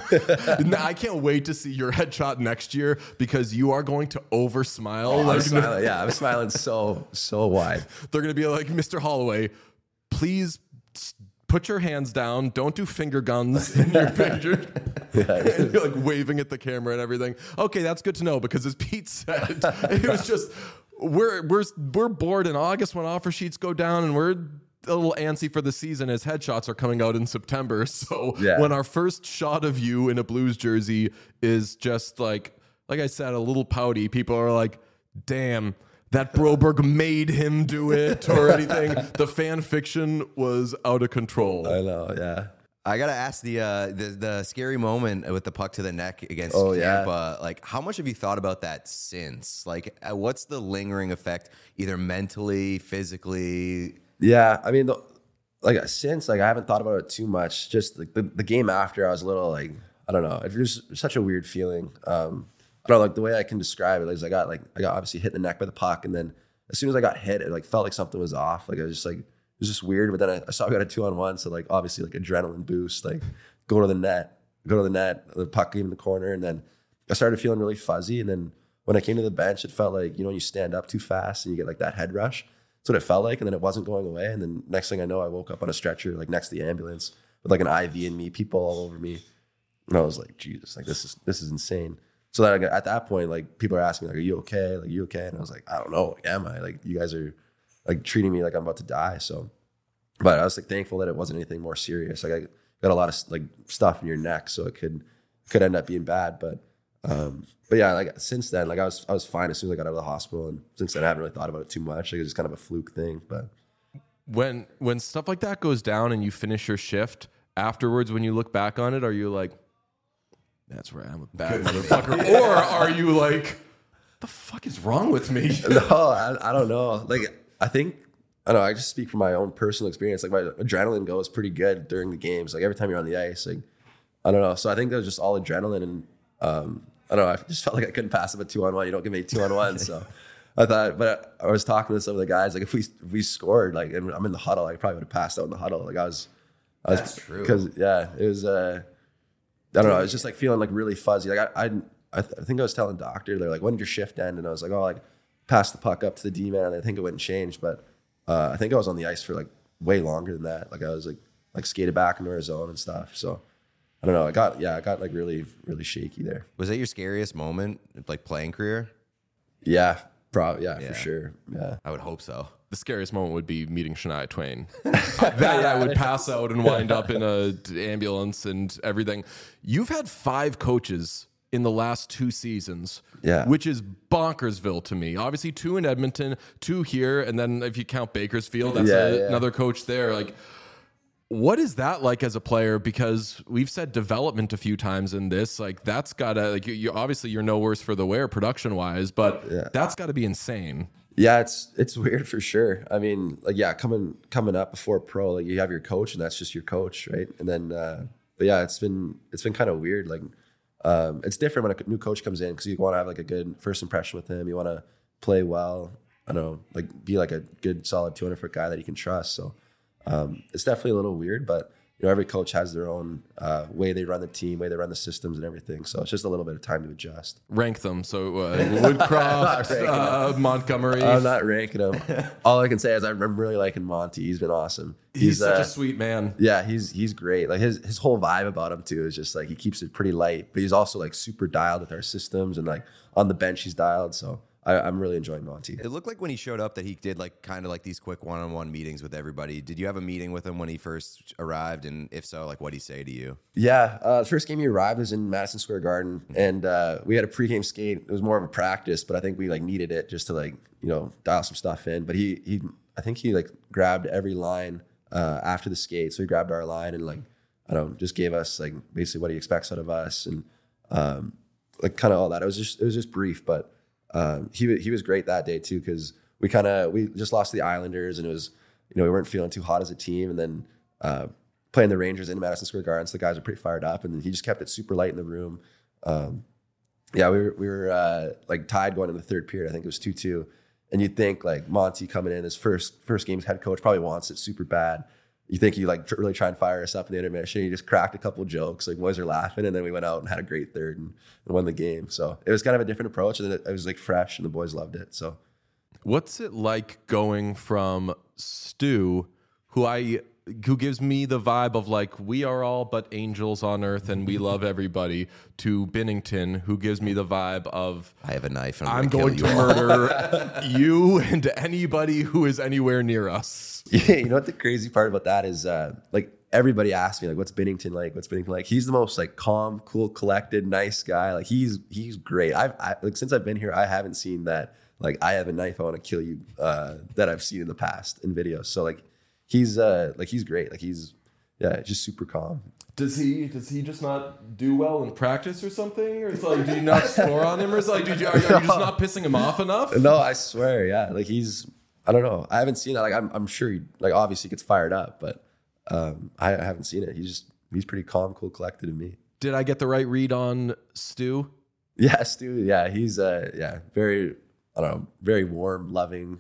I can't wait to see your headshot next year because you are going to over smile. I'm smiling. Yeah, I'm smiling so wide. They're going to be like, Mr. Holloway, please put your hands down. Don't do finger guns in your picture. And you're like waving at the camera and everything. Okay, that's good to know because as Pete said, it was just we're bored in August when offer sheets go down, and we're a little antsy for the season as headshots are coming out in September. So when our first shot of you in a Blues jersey is just like I said, a little pouty, people are like, damn, that Broberg made him do it or anything. The fan fiction was out of control. I know, yeah. I gotta ask the scary moment with the puck to the neck against Oh, Tampa. Like, how much have you thought about that since? Like, what's the lingering effect, either mentally, physically? Yeah, I mean, since I haven't thought about it too much. Just like the game after, I was a little like, I don't know. It was such a weird feeling. I don't know, like the way I can describe it is I got obviously hit in the neck by the puck, and then as soon as I got hit, it like felt like something was off. Like I was just like, it was just weird. But then I saw I got a 2-on-1, so like obviously like adrenaline boost, like go to the net, the puck came in the corner, and then I started feeling really fuzzy. And then when I came to the bench, it felt like, you stand up too fast and you get like that head rush. That's what it felt like, and then it wasn't going away. And then next thing I know, I woke up on a stretcher, like next to the ambulance, with like an IV in me, people all over me, and I was like, Jesus, like this is insane. So that at that point, like people are asking me, like, "Are you okay? Like, you okay?" And I was like, "I don't know. Like, am I? Like, you guys are like treating me like I'm about to die." So, but I was like thankful that it wasn't anything more serious. Like I got a lot of like stuff in your neck, so it could end up being bad. But yeah, like since then, like I was fine as soon as I got out of the hospital, and since then I haven't really thought about it too much. Like it's just kind of a fluke thing. But when stuff like that goes down and you finish your shift afterwards, when you look back on it, are you like, that's where I'm a bad motherfucker, or are you like, the fuck is wrong with me? No, I don't know. Like I think I don't know. I just speak from my own personal experience. Like my adrenaline goes pretty good during the games. Like every time you're on the ice, like I don't know. So I think that was just all adrenaline, and I don't know. I just felt like I couldn't pass up a 2-on-1. You don't give me a 2-on-1. So I thought, but I was talking to some of the guys. Like if we scored, like and I'm in the huddle, I probably would have passed out in the huddle. Like I was That's true. Because it was. I don't know. I was just like feeling like really fuzzy. Like I think I was telling doctor, they're like, when did your shift end? And I was like, oh, like pass the puck up to the D-man. And I think it wouldn't change, but I think I was on the ice for like way longer than that. Like I was like skated back into our zone and stuff. So I don't know. I got like really, really shaky there. Was that your scariest moment, like playing career? Yeah, probably. Yeah, for sure. Yeah. I would hope so. The scariest moment would be meeting Shania Twain. That I would pass out and wind up in a ambulance and everything. You've had 5 coaches in the last 2 seasons, which is bonkersville to me. Obviously 2 in Edmonton, 2 here, and then if you count Bakersfield, that's another coach there. Like, what is that like as a player? Because we've said development a few times in this. Like, that's gotta, like, you obviously you're no worse for the wear production wise, but that's got to be insane. Yeah, it's weird for sure. I mean, like, coming up before pro, like you have your coach and that's just your coach, right? And then, but yeah, it's been kind of weird. Like, it's different when a new coach comes in because you want to have like a good first impression with him. You want to play well. I don't know, like be like a good solid 200-foot guy that you can trust. So it's definitely a little weird, but every coach has their own way they run the team, way they run the systems and everything. So it's just a little bit of time to adjust. Rank them. So Woodcroft, Montgomery. I'm not ranking them. All I can say is I'm really liking Monty. He's been awesome. He's such a sweet man. Yeah, he's great. Like his whole vibe about him too is just like he keeps it pretty light, but he's also like super dialed with our systems, and like on the bench he's dialed. So I'm really enjoying Monty. It looked like when he showed up that he did like kind of like these quick one-on-one meetings with everybody. Did you have a meeting with him when he first arrived? And if so, like what'd he say to you? Yeah, the first game he arrived was in Madison Square Garden, and we had a pregame skate. It was more of a practice, but I think we like needed it just to like dial some stuff in. But I think he like grabbed every line after the skate. So he grabbed our line and like just gave us like basically what he expects out of us, and like kind of all that. It was just brief, but. He was great that day too, because we just lost to the Islanders, and it was we weren't feeling too hot as a team, and then playing the Rangers in Madison Square Garden, so the guys were pretty fired up, and he just kept it super light in the room. We were like tied going into the third period. I think it was 2-2, and you'd think like Monty coming in his first game as head coach probably wants it super bad. You think he like really try and fire us up in the intermission. He just cracked a couple jokes, like boys are laughing, and then we went out and had a great third and won the game. So it was kind of a different approach, and it was like fresh, and the boys loved it. So, what's it like going from Stu, who gives me the vibe of like we are all but angels on earth and we love everybody, to Binnington, who gives me the vibe of I have a knife and I'm going to murder you and anybody who is anywhere near us. Yeah, you know what the crazy part about that is? Like everybody asks me like, "What's Binnington like? What's Binnington like?" He's the most like calm, cool, collected, nice guy. Like he's great. I like since I've been here, I haven't seen that. Like I have a knife, I want to kill you. That I've seen in the past in videos. So like. He's great. Like he's just super calm. Does he just not do well in practice or something? Or it's like, do you not score on him? Or it's like, are you just not pissing him off enough? No, I swear, yeah. Like I don't know. I haven't seen that. Like I'm sure he like obviously gets fired up, but I haven't seen it. He's pretty calm, cool, collected to me. Did I get the right read on Stu? Yeah, Stu. Yeah, he's very very warm, loving.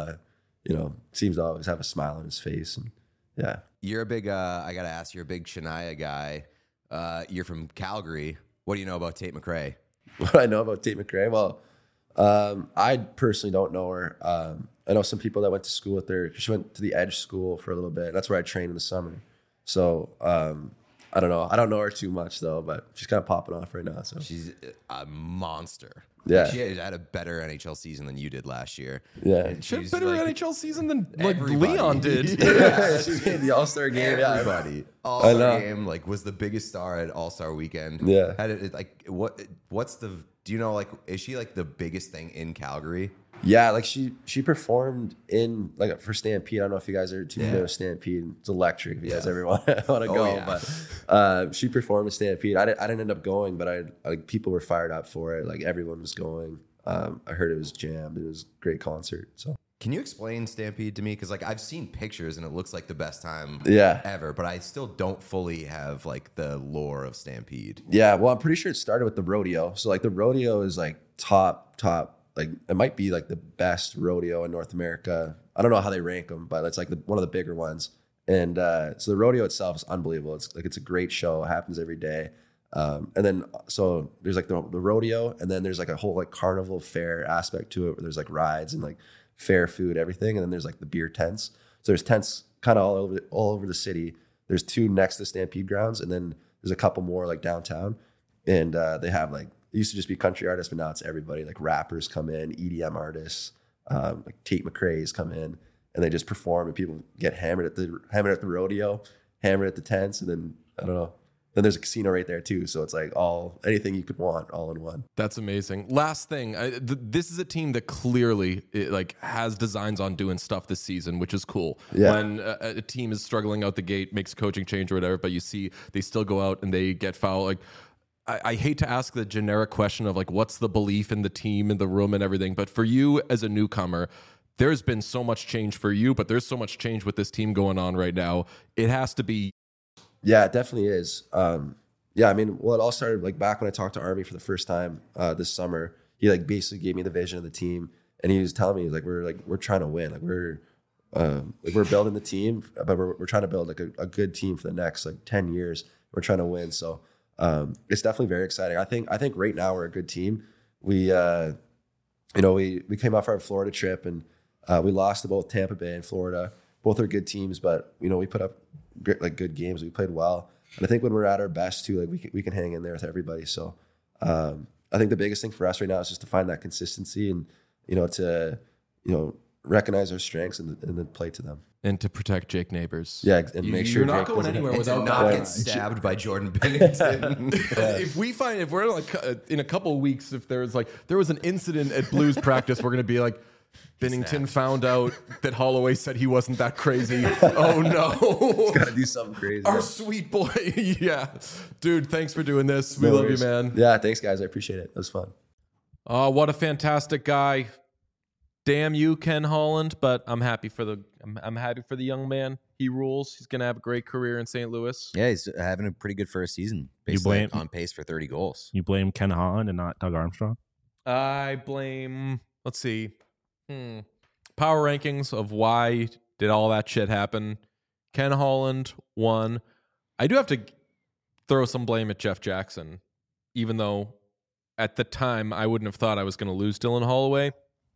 Seems to always have a smile on his face. And yeah. You're a big, I got to ask, you're a big Shania guy. You're from Calgary. What do you know about Tate McRae? What do I know about Tate McRae? Well, I personally don't know her. I know some people that went to school with her. She went to the Edge School for a little bit. That's where I trained in the summer. So I don't know. I don't know her too much, though, but she's kind of popping off right now. So she's a monster. Yeah, she had a better NHL season than you did last year. Yeah, she had a better NHL season than like everybody. Leon did. Yeah, she made the All-Star game. Everybody, All-Star game, like was the biggest star at All-Star weekend. Yeah, had it like what's the? Do you know like is she like the biggest thing in Calgary? Yeah, like she performed in like for Stampede. I don't know if you guys are too familiar with Stampede. It's electric if you guys ever want to go. Yeah. But she performed in Stampede. I didn't end up going, but people were fired up for it. Like everyone was going. I heard it was jammed. It was a great concert. So can you explain Stampede to me? Because like I've seen pictures and it looks like the best time ever, but I still don't fully have like the lore of Stampede. Yeah, well, I'm pretty sure it started with the rodeo. So like the rodeo is like top. Like it might be like the best rodeo in North America. I don't know how they rank them, but it's like one of the bigger ones. And so the rodeo itself is unbelievable. It's a great show. It happens every day. And then so there's like the rodeo, and then there's like a whole like carnival fair aspect to it where there's like rides and like fair food, everything. And then there's like the beer tents. So there's tents kind of all over the city. There's 2 next to the Stampede grounds, and then there's a couple more like downtown. And they have like, it used to just be country artists, but now it's everybody. Like rappers come in, EDM artists, like Tate McRae's come in, and they just perform, and people get hammered at the rodeo, hammered at the tents, and then I don't know. Then there's a casino right there too, so it's like anything you could want, all in one. That's amazing. Last thing, this is a team that clearly has designs on doing stuff this season, which is cool. Yeah. When a team is struggling out the gate, makes a coaching change or whatever, but you see they still go out and they get fouled. Like I hate to ask the generic question of like, what's the belief in the team, in the room and everything, but for you as a newcomer, there's been so much change for you, but there's so much change with this team going on right now. It has to be. Yeah, it definitely is. Yeah, I mean, well, it all started like back when I talked to Army for the first time this summer. He like basically gave me the vision of the team, and he was telling me, he's like, we're trying to win. Like we're building the team, but we're trying to build like a good team for the next like 10 years. We're trying to win. So it's definitely very exciting. I think right now we're a good team. We came off our Florida trip and we lost to both Tampa Bay and Florida. Both are good teams, but we put up good games. We played well, and I think when we're at our best too, like we can hang in there with everybody. So I think the biggest thing for us right now is just to find that consistency and to recognize our strengths and then play to them. And to protect Jake Neighbors. Yeah, and make sure you're not Jake going doesn't- anywhere And to without not that. get stabbed by Jordan Bennington. If we're like in a couple of weeks, if there was an incident at Blues practice, we're gonna be like, Bennington found out that Holloway said he wasn't that crazy. Oh no. Got to do something crazy. Our sweet boy. Yeah. Dude, thanks for doing this. We No love worries. you, man. Yeah, thanks guys. I appreciate it. It was fun. Oh, what a fantastic guy. Damn you, Ken Holland, but I'm happy for the young man. He rules. He's gonna have a great career in St. Louis. Yeah, he's having a pretty good first season. You blame- On pace for 30 goals. You blame Ken Holland and not Doug Armstrong? I blame, let's see, power rankings of why did all that shit happen. Ken Holland won. I do have to throw some blame at Jeff Jackson, even though at the time I wouldn't have thought I was going to lose Dylan Holloway.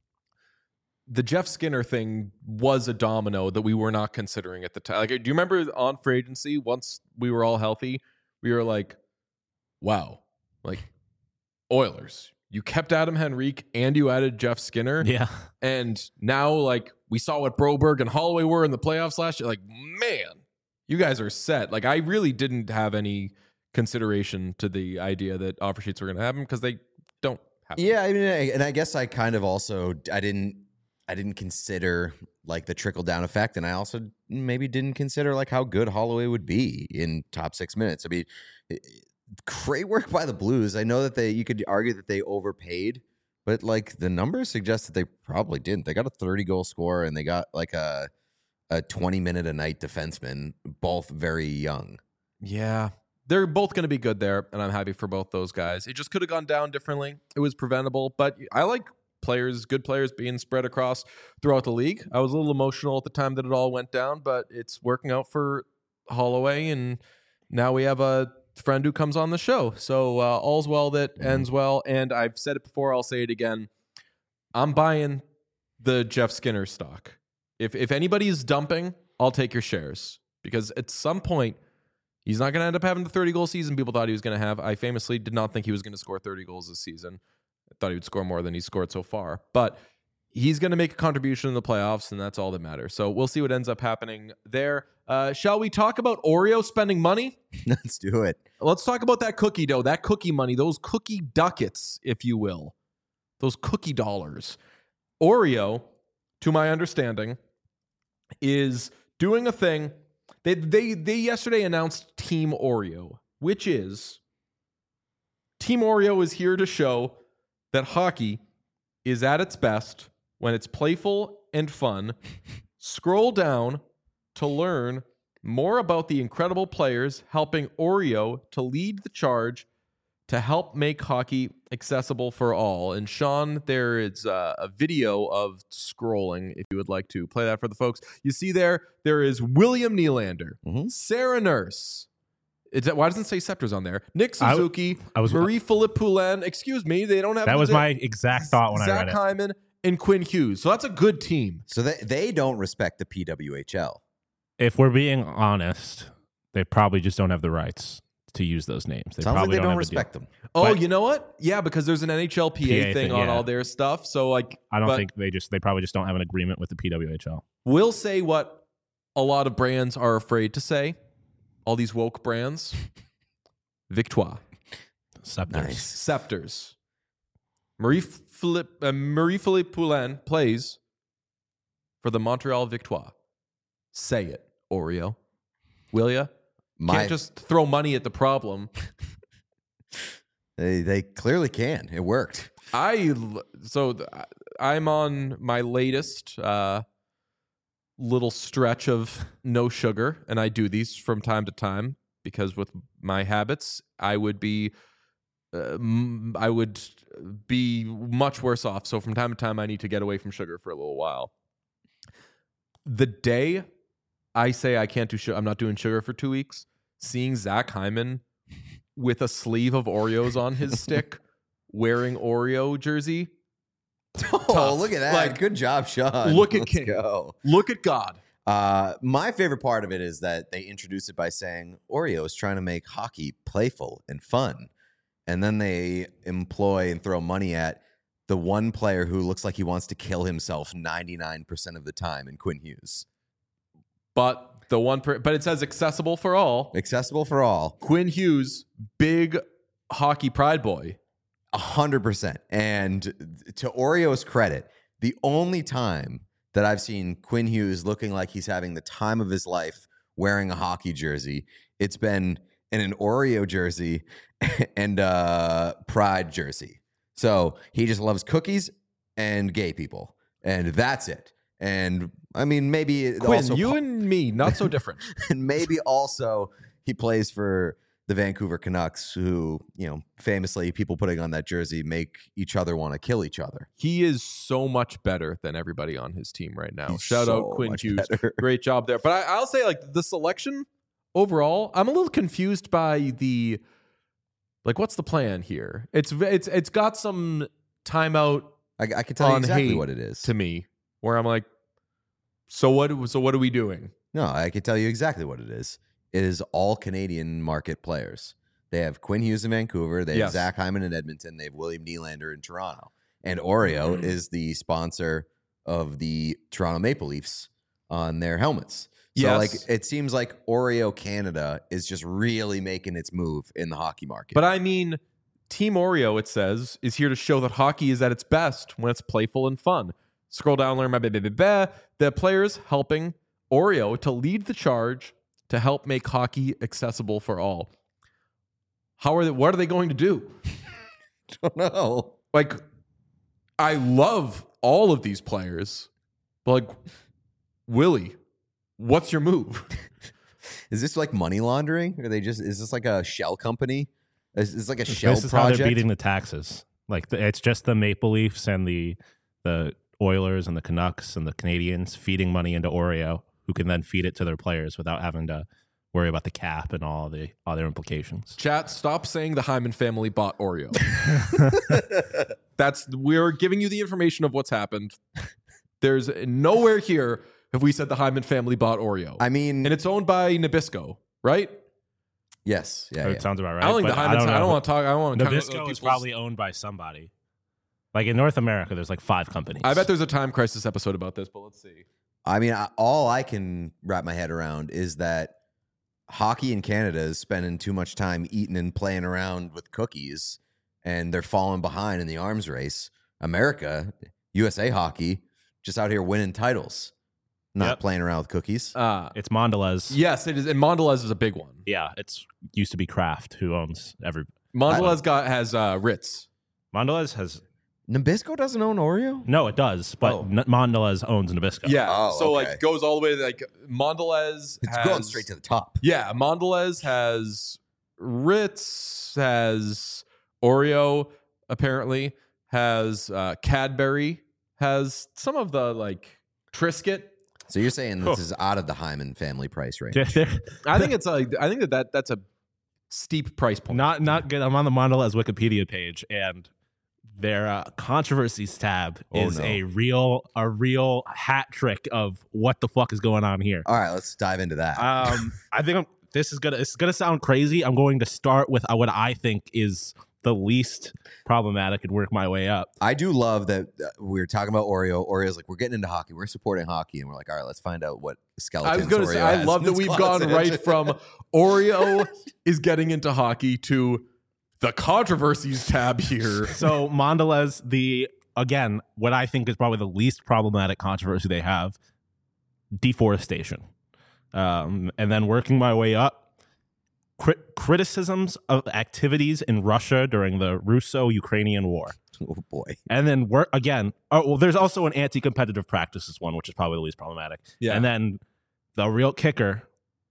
The Jeff Skinner thing was a domino that we were not considering at the time. Like, do you remember on free agency, once we were all healthy, we were like, wow, like Oilers, you kept Adam Henrique and you added Jeff Skinner. Yeah. And now, like, we saw what Broberg and Holloway were in the playoffs last year. Like, man, you guys are set. Like, I really didn't have any consideration to the idea that offer sheets were going to happen because they don't happen. Yeah, I mean, and I guess I kind of also I didn't consider like the trickle down effect, and I also maybe didn't consider like how good Holloway would be in top 6 minutes. I mean, great work by the Blues. I know that you could argue that they overpaid, but like the numbers suggest that they probably didn't. They got a 30-goal scorer and they got like a 20-minute a night defenseman, both very young. Yeah. They're both going to be good there, and I'm happy for both those guys. It just could have gone down differently. It was preventable, but I like good players being spread across throughout the league. I was a little emotional at the time that it all went down, but it's working out for Holloway, and now we have a friend who comes on the show. So all's well that ends well, and I've said it before, I'll say it again. I'm buying the Jeff Skinner stock. If anybody's dumping, I'll take your shares, because at some point, he's not going to end up having the 30-goal season people thought he was going to have. I famously did not think he was going to score 30 goals this season. I thought he would score more than he scored so far. But he's going to make a contribution in the playoffs, and that's all that matters. So we'll see what ends up happening there. Shall we talk about Oreo spending money? Let's do it. Let's talk about that cookie dough, that cookie money, those cookie ducats, if you will. Those cookie dollars. Oreo, to my understanding, is doing a thing. They yesterday announced Team Oreo, which is Team Oreo is here to show that hockey is at its best when it's playful and fun. Scroll down to learn more about the incredible players helping Oreo to lead the charge to help make hockey accessible for all. And Sean, there is a video of scrolling if you would like to play that for the folks. You see there is William Nylander, Sarah Nurse. Why doesn't it say Scepters on there? Nick Suzuki, Marie-Philippe Poulin. Excuse me, they don't have... That was my exact thought when I read it. Zach Hyman and Quinn Hughes. So that's a good team. So they don't respect the PWHL. If we're being honest, they probably just don't have the rights to use those names. They Sounds probably like they don't have respect them. Oh, But- you know what? Yeah, because there's an NHLPA thing on yeah. all their stuff. So like, I don't but think they probably just don't have an agreement with the PWHL. we'll say what a lot of brands are afraid to say. All these woke brands. Victoire. Scepters. Nice. Scepters. Marie-Philippe Poulin plays for the Montreal Victoire. Say it, Oreo. Will ya? Can't just throw money at the problem. They clearly can. It worked. I'm on my latest little stretch of no sugar, and I do these from time to time because with my habits, I would be much worse off. So from time to time, I need to get away from sugar for a little while. the day I say I can't do sugar, I'm not doing sugar for 2 weeks, seeing Zach Hyman with a sleeve of Oreos on his stick, wearing Oreo jersey. Oh, Tough. look at that. Like, good job, Sean. look at Let's King. go. Look at God. My favorite part of it is that they introduce it by saying Oreo is trying to make hockey playful and fun. And then they employ and throw money at the one player who looks like he wants to kill himself 99% of the time in Quinn Hughes. But but it says accessible for all. Accessible for all. Quinn Hughes, big hockey pride boy. 100%. And to Oreo's credit, the only time that I've seen Quinn Hughes looking like he's having the time of his life wearing a hockey jersey, it's been in an Oreo jersey and a Pride jersey. So he just loves cookies and gay people. And that's it. And I mean, maybe it Quinn, also you and me, not so different. and maybe also he plays for the Vancouver Canucks, who, famously people putting on that jersey make each other want to kill each other. He is so much better than everybody on his team right now. He's Shout so out Quinn much Hughes. better. Great job there. But I'll say, like, the selection overall, I'm a little confused by the, like, what's the plan here? It's got some timeout I can tell you on exactly hate what it is. to me, where I'm like, so what are we doing? No, I can tell you exactly what it is. It is all Canadian market players. They have Quinn Hughes in Vancouver. They have Yes. Zach Hyman in Edmonton. They have William Nylander in Toronto. And Oreo is the sponsor of the Toronto Maple Leafs on their helmets. So, Yes. it seems like Oreo Canada is just really making its move in the hockey market. But I mean, Team Oreo, it says, is here to show that hockey is at its best when it's playful and fun. Scroll down, learn the players helping Oreo to lead the charge to help make hockey accessible for all. What are they going to do? don't know. Like, I love all of these players, but like, Willie, what's your move? Is this like money laundering? Is this like a shell company? Is this like a shell This is project? how they're beating the taxes. Like it's just the Maple Leafs and the Oilers and the Canucks and the Canadians feeding money into Oreo, who can then feed it to their players without having to worry about the cap and all the other implications. Chat, stop saying the Hyman family bought Oreo. We're giving you the information of what's happened. There's nowhere here have we said the Hyman family bought Oreo. I mean, and it's owned by Nabisco, right? yes. Yeah. It sounds about right. I don't think but the Hyman. I don't want to talk. I don't want to. Nabisco is probably owned by somebody. Like in North America, there's like 5 companies. I bet there's a Time Crisis episode about this, but let's see. I mean, all I can wrap my head around is that hockey in Canada is spending too much time eating and playing around with cookies, and they're falling behind in the arms race. America, USA Hockey, just out here winning titles, not playing around with cookies. It's Mondelez. Yes, it is, and Mondelez is a big one. Yeah, it's used to be Kraft who owns every. Mondelez has Ritz. Mondelez has. Nabisco doesn't own Oreo? No, it does, but Mondelez owns Nabisco. Yeah, Oh, so okay. like goes all the way to like Mondelez. It's going straight to the top. Yeah, Mondelez has Ritz, has Oreo, apparently, has Cadbury, has some of the like Triscuit. So you're saying this is out of the Hyman family price range? I think that's a steep price point. Not good. I'm on the Mondelez Wikipedia page, and their controversies tab is a real hat trick of what the fuck is going on here. All right, let's dive into that. I think this is gonna sound crazy. I'm going to start with what I think is the least problematic and work my way up. I do love that we were talking about Oreo. Oreo's like, we're getting into hockey. We're supporting hockey. And we're like, all right, let's find out what skeletons I was going to Oreo say, I has love in that his we've closet. gone right from Oreo is getting into hockey to the controversies tab here. So Mondelez, what I think is probably the least problematic controversy they have, deforestation. And then working my way up, criticisms of activities in Russia during the Russo-Ukrainian War. Oh, boy. And then there's also an anti-competitive practices one, which is probably the least problematic. Yeah. And then the real kicker,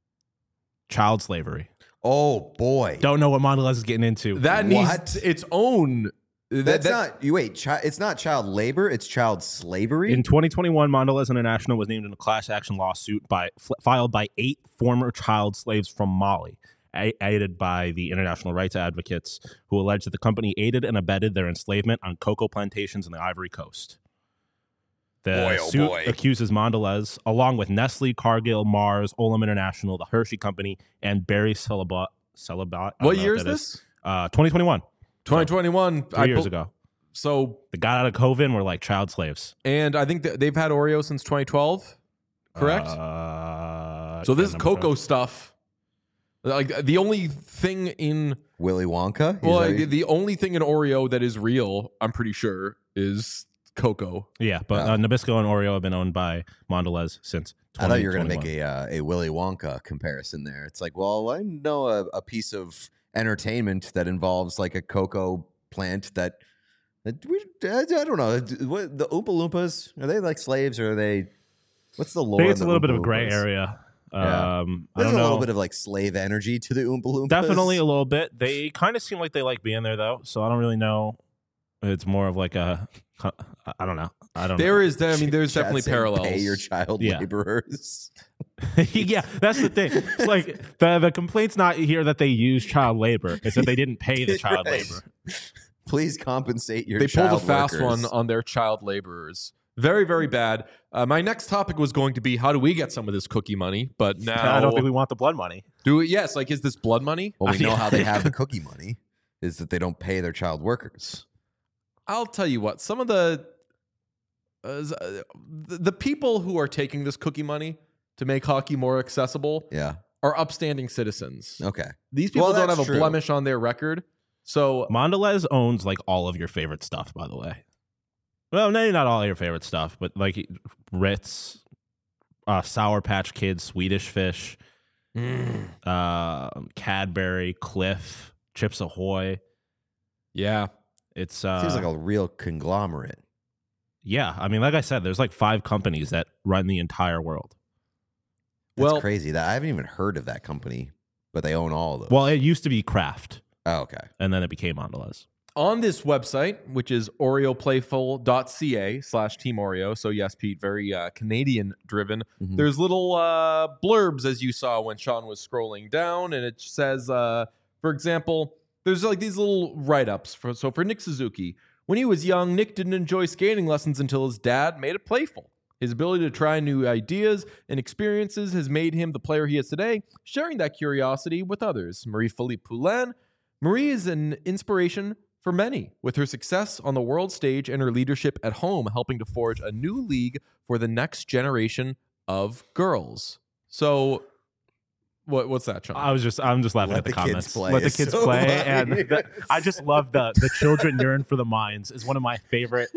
child slavery. Oh, boy. Don't know what Mondelez is getting into. That needs its own That's not you. Wait, it's not child labor. It's child slavery. In 2021, Mondelez International was named in a class action lawsuit filed by 8 former child slaves from Mali, aided by the international rights advocates who allege that the company aided and abetted their enslavement on cocoa plantations in the Ivory Coast. The suit accuses Mondelez, along with Nestle, Cargill, Mars, Olam International, the Hershey Company, and Barry Celebat. What year is this? 2021. 2021. 3 years ago. So they got out of COVID and were like child slaves. And I think they've had Oreo since 2012, correct? So this cocoa stuff, like the only thing in Willy Wonka. Well, the only thing in Oreo that is real, I'm pretty sure, is cocoa. Yeah, but Nabisco and Oreo have been owned by Mondelez since 2021. I thought you were going to make a Willy Wonka comparison there. It's like, well, I know a piece of entertainment that involves like a cocoa plant that I don't know. What, the Oompa Loompas, are they like slaves or are they? What's the lore? I think it's a little bit of a gray area. Yeah. There's a little bit of like slave energy to the Oompa Loompas. Definitely a little bit. They kind of seem like they like being there though, so I don't really know. It's more of like a, I don't know. There's definitely parallels. Pay your child laborers. Yeah, that's the thing. It's like the complaint's not here that they use child labor. It's that they didn't pay the child labor. Please compensate your They child pulled a fast workers. one on their child laborers. Very, very bad. My next topic was going to be how do we get some of this cookie money? But now I don't think we want the blood money. Do we? Yes. Like, is this blood money? Well, we know how they have the cookie money is that they don't pay their child workers. I'll tell you what. Some of the people who are taking this cookie money to make hockey more accessible, are upstanding citizens. Okay, these people don't have a blemish on their record. So Mondelez owns like all of your favorite stuff, by the way. Well, maybe not all of your favorite stuff, but like Ritz, Sour Patch Kids, Swedish Fish, Cadbury, Cliff, Chips Ahoy. Yeah, it's seems like a real conglomerate. Yeah, I mean, like I said, there's like 5 companies that run the entire world. That's crazy. That I haven't even heard of that company, but they own all of those. Well, it used to be Kraft. Oh, okay. And then it became Mondelez. On this website, which is oreoplayful.ca/Team Oreo. So yes, Pete, very Canadian driven. Mm-hmm. There's little blurbs, as you saw when Sean was scrolling down, and it says, for example, there's like these little write-ups. For Nick Suzuki, when he was young, Nick didn't enjoy skating lessons until his dad made it playful. His ability to try new ideas and experiences has made him the player he is today, sharing that curiosity with others. Marie-Philippe Poulin. Marie is an inspiration for many, with her success on the world stage and her leadership at home helping to forge a new league for the next generation of girls. So, what's that, Sean? I'm just laughing at the comments. Let the kids play, and I just love the children yearn for the mines is one of my favorite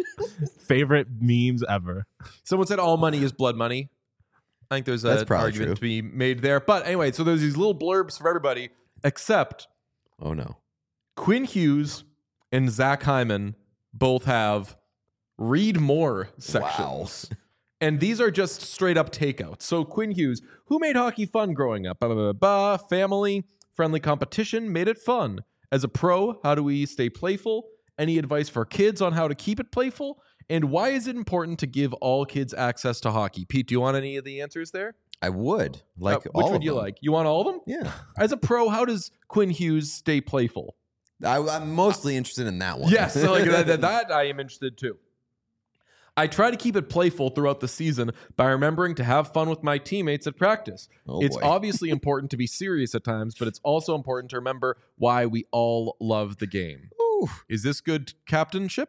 memes ever. Someone said all money is blood money. I think there's an argument to be made there. But anyway, so there's these little blurbs for everybody, except oh no, Quinn Hughes and Zach Hyman both have read more sections. Wow. And these are just straight up takeouts. So Quinn Hughes, who made hockey fun growing up? Family, friendly competition made it fun. As a pro, how do we stay playful? Any advice for kids on how to keep it playful? And why is it important to give all kids access to hockey? Pete, do you want any of the answers there? I would. Like which all would you them. like? You want all of them? Yeah. As a pro, how does Quinn Hughes stay playful? I'm mostly interested in that one. Yes, so like that I am interested too. I try to keep it playful throughout the season by remembering to have fun with my teammates at practice. It's obviously important to be serious at times, but it's also important to remember why we all love the game. Ooh. Is this good captaincy?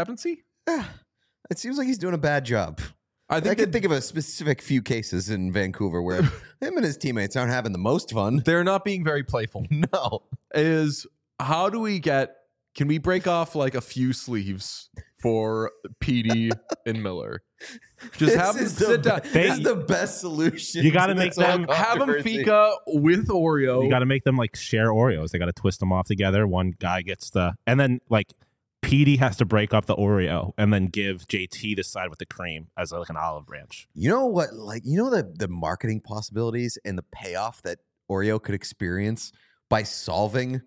It seems like he's doing a bad job. I can think of a specific few cases in Vancouver where him and his teammates aren't having the most fun. They're not being very playful. No. How do we can we break off like a few sleeves for PD and Miller? Just have them sit down. This is the best solution. You got to make them have them fika with Oreo. You got to make them like share Oreos. They got to twist them off together. One guy gets and then like PD has to break up the Oreo and then give JT the side with the cream as like an olive branch. You know what? Like, you know the marketing possibilities and the payoff that Oreo could experience by solving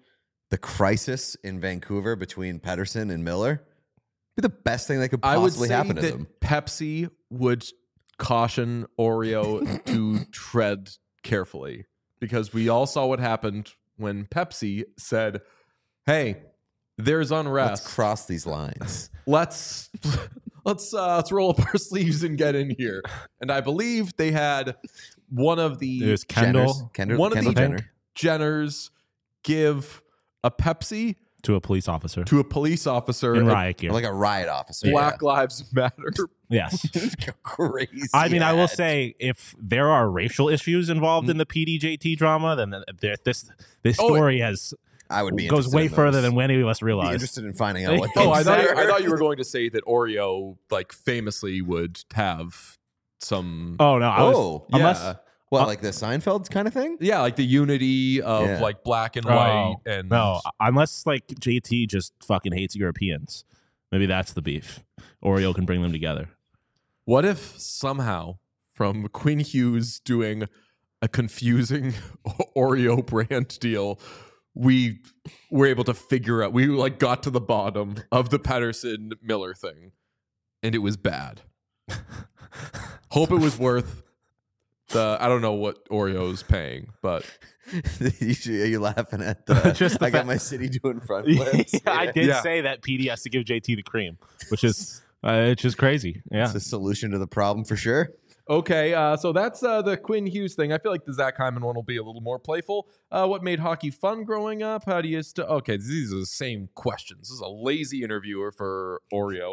the crisis in Vancouver between Pettersson and Miller be the best thing that could I would possibly say happen to that them. Pepsi would caution Oreo to tread carefully, because we all saw what happened when Pepsi said, "Hey, there's unrest. Let's cross these lines." Let's roll up our sleeves and get in here." And I believe they had one of the There's Kendall one of Kendall the Jenners give a Pepsi to a police officer to a police officer in at riot gear. like a riot officer. Black Lives Matter. Yes. Crazy. I mean, I will ad. say, if there are racial issues involved in the PDJT drama, then this story has I would be goes interested way in further those. than any of us Be realize. interested in finding out what. Oh, I those are. thought you were going to say that Oreo, like, famously would have some. Oh no! Oh, yeah, unless What, like the Seinfeld kind of thing? yeah, like the unity of Yeah. like black and white, and no, unless like JT just fucking hates Europeans. Maybe that's the beef. Oreo can bring them together. What if somehow from Quinn Hughes doing a confusing Oreo brand deal, we were able to figure out, we like got to the bottom of the Pettersson Miller thing, and it was bad. Hope it was worth the, I don't know what Oreo's paying, but Are you laughing at the? Just the I got fact- my city doing front Yeah, flips. I did Yeah. say that PD has to give JT the cream, which is it's just crazy. Yeah. It's a solution to the problem for sure. okay, so that's the Quinn Hughes thing. I feel like the Zach Hyman one will be a little more playful. What made hockey fun growing up? How do you okay, these are the same questions. This is a lazy interviewer for Oreo.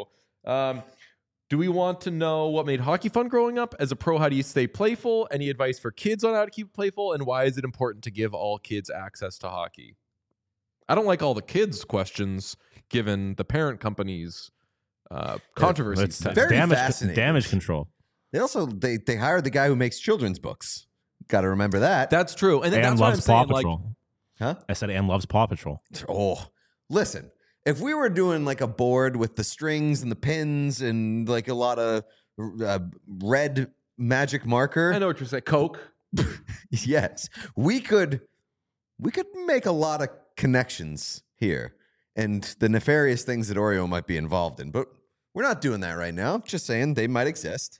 Do we want to know what made hockey fun growing up? As a pro, how do you stay playful? Any advice for kids on how to keep playful? And why is it important to give all kids access to hockey? I don't like all the kids' questions given the parent company's controversy. It's Very fascinating. damage control. They also they hired the guy who makes children's books. Got to remember that. That's true. And then And that's what I'm loves Paw saying. Like, Patrol. Huh? I said and loves Paw Patrol. Oh, listen. If we were doing like a board with the strings and the pins and like a lot of red magic marker, I know what you're saying. Coke. yes, we could make a lot of connections here and the nefarious things that Oreo might be involved in. But we're not doing that right now. Just saying they might exist.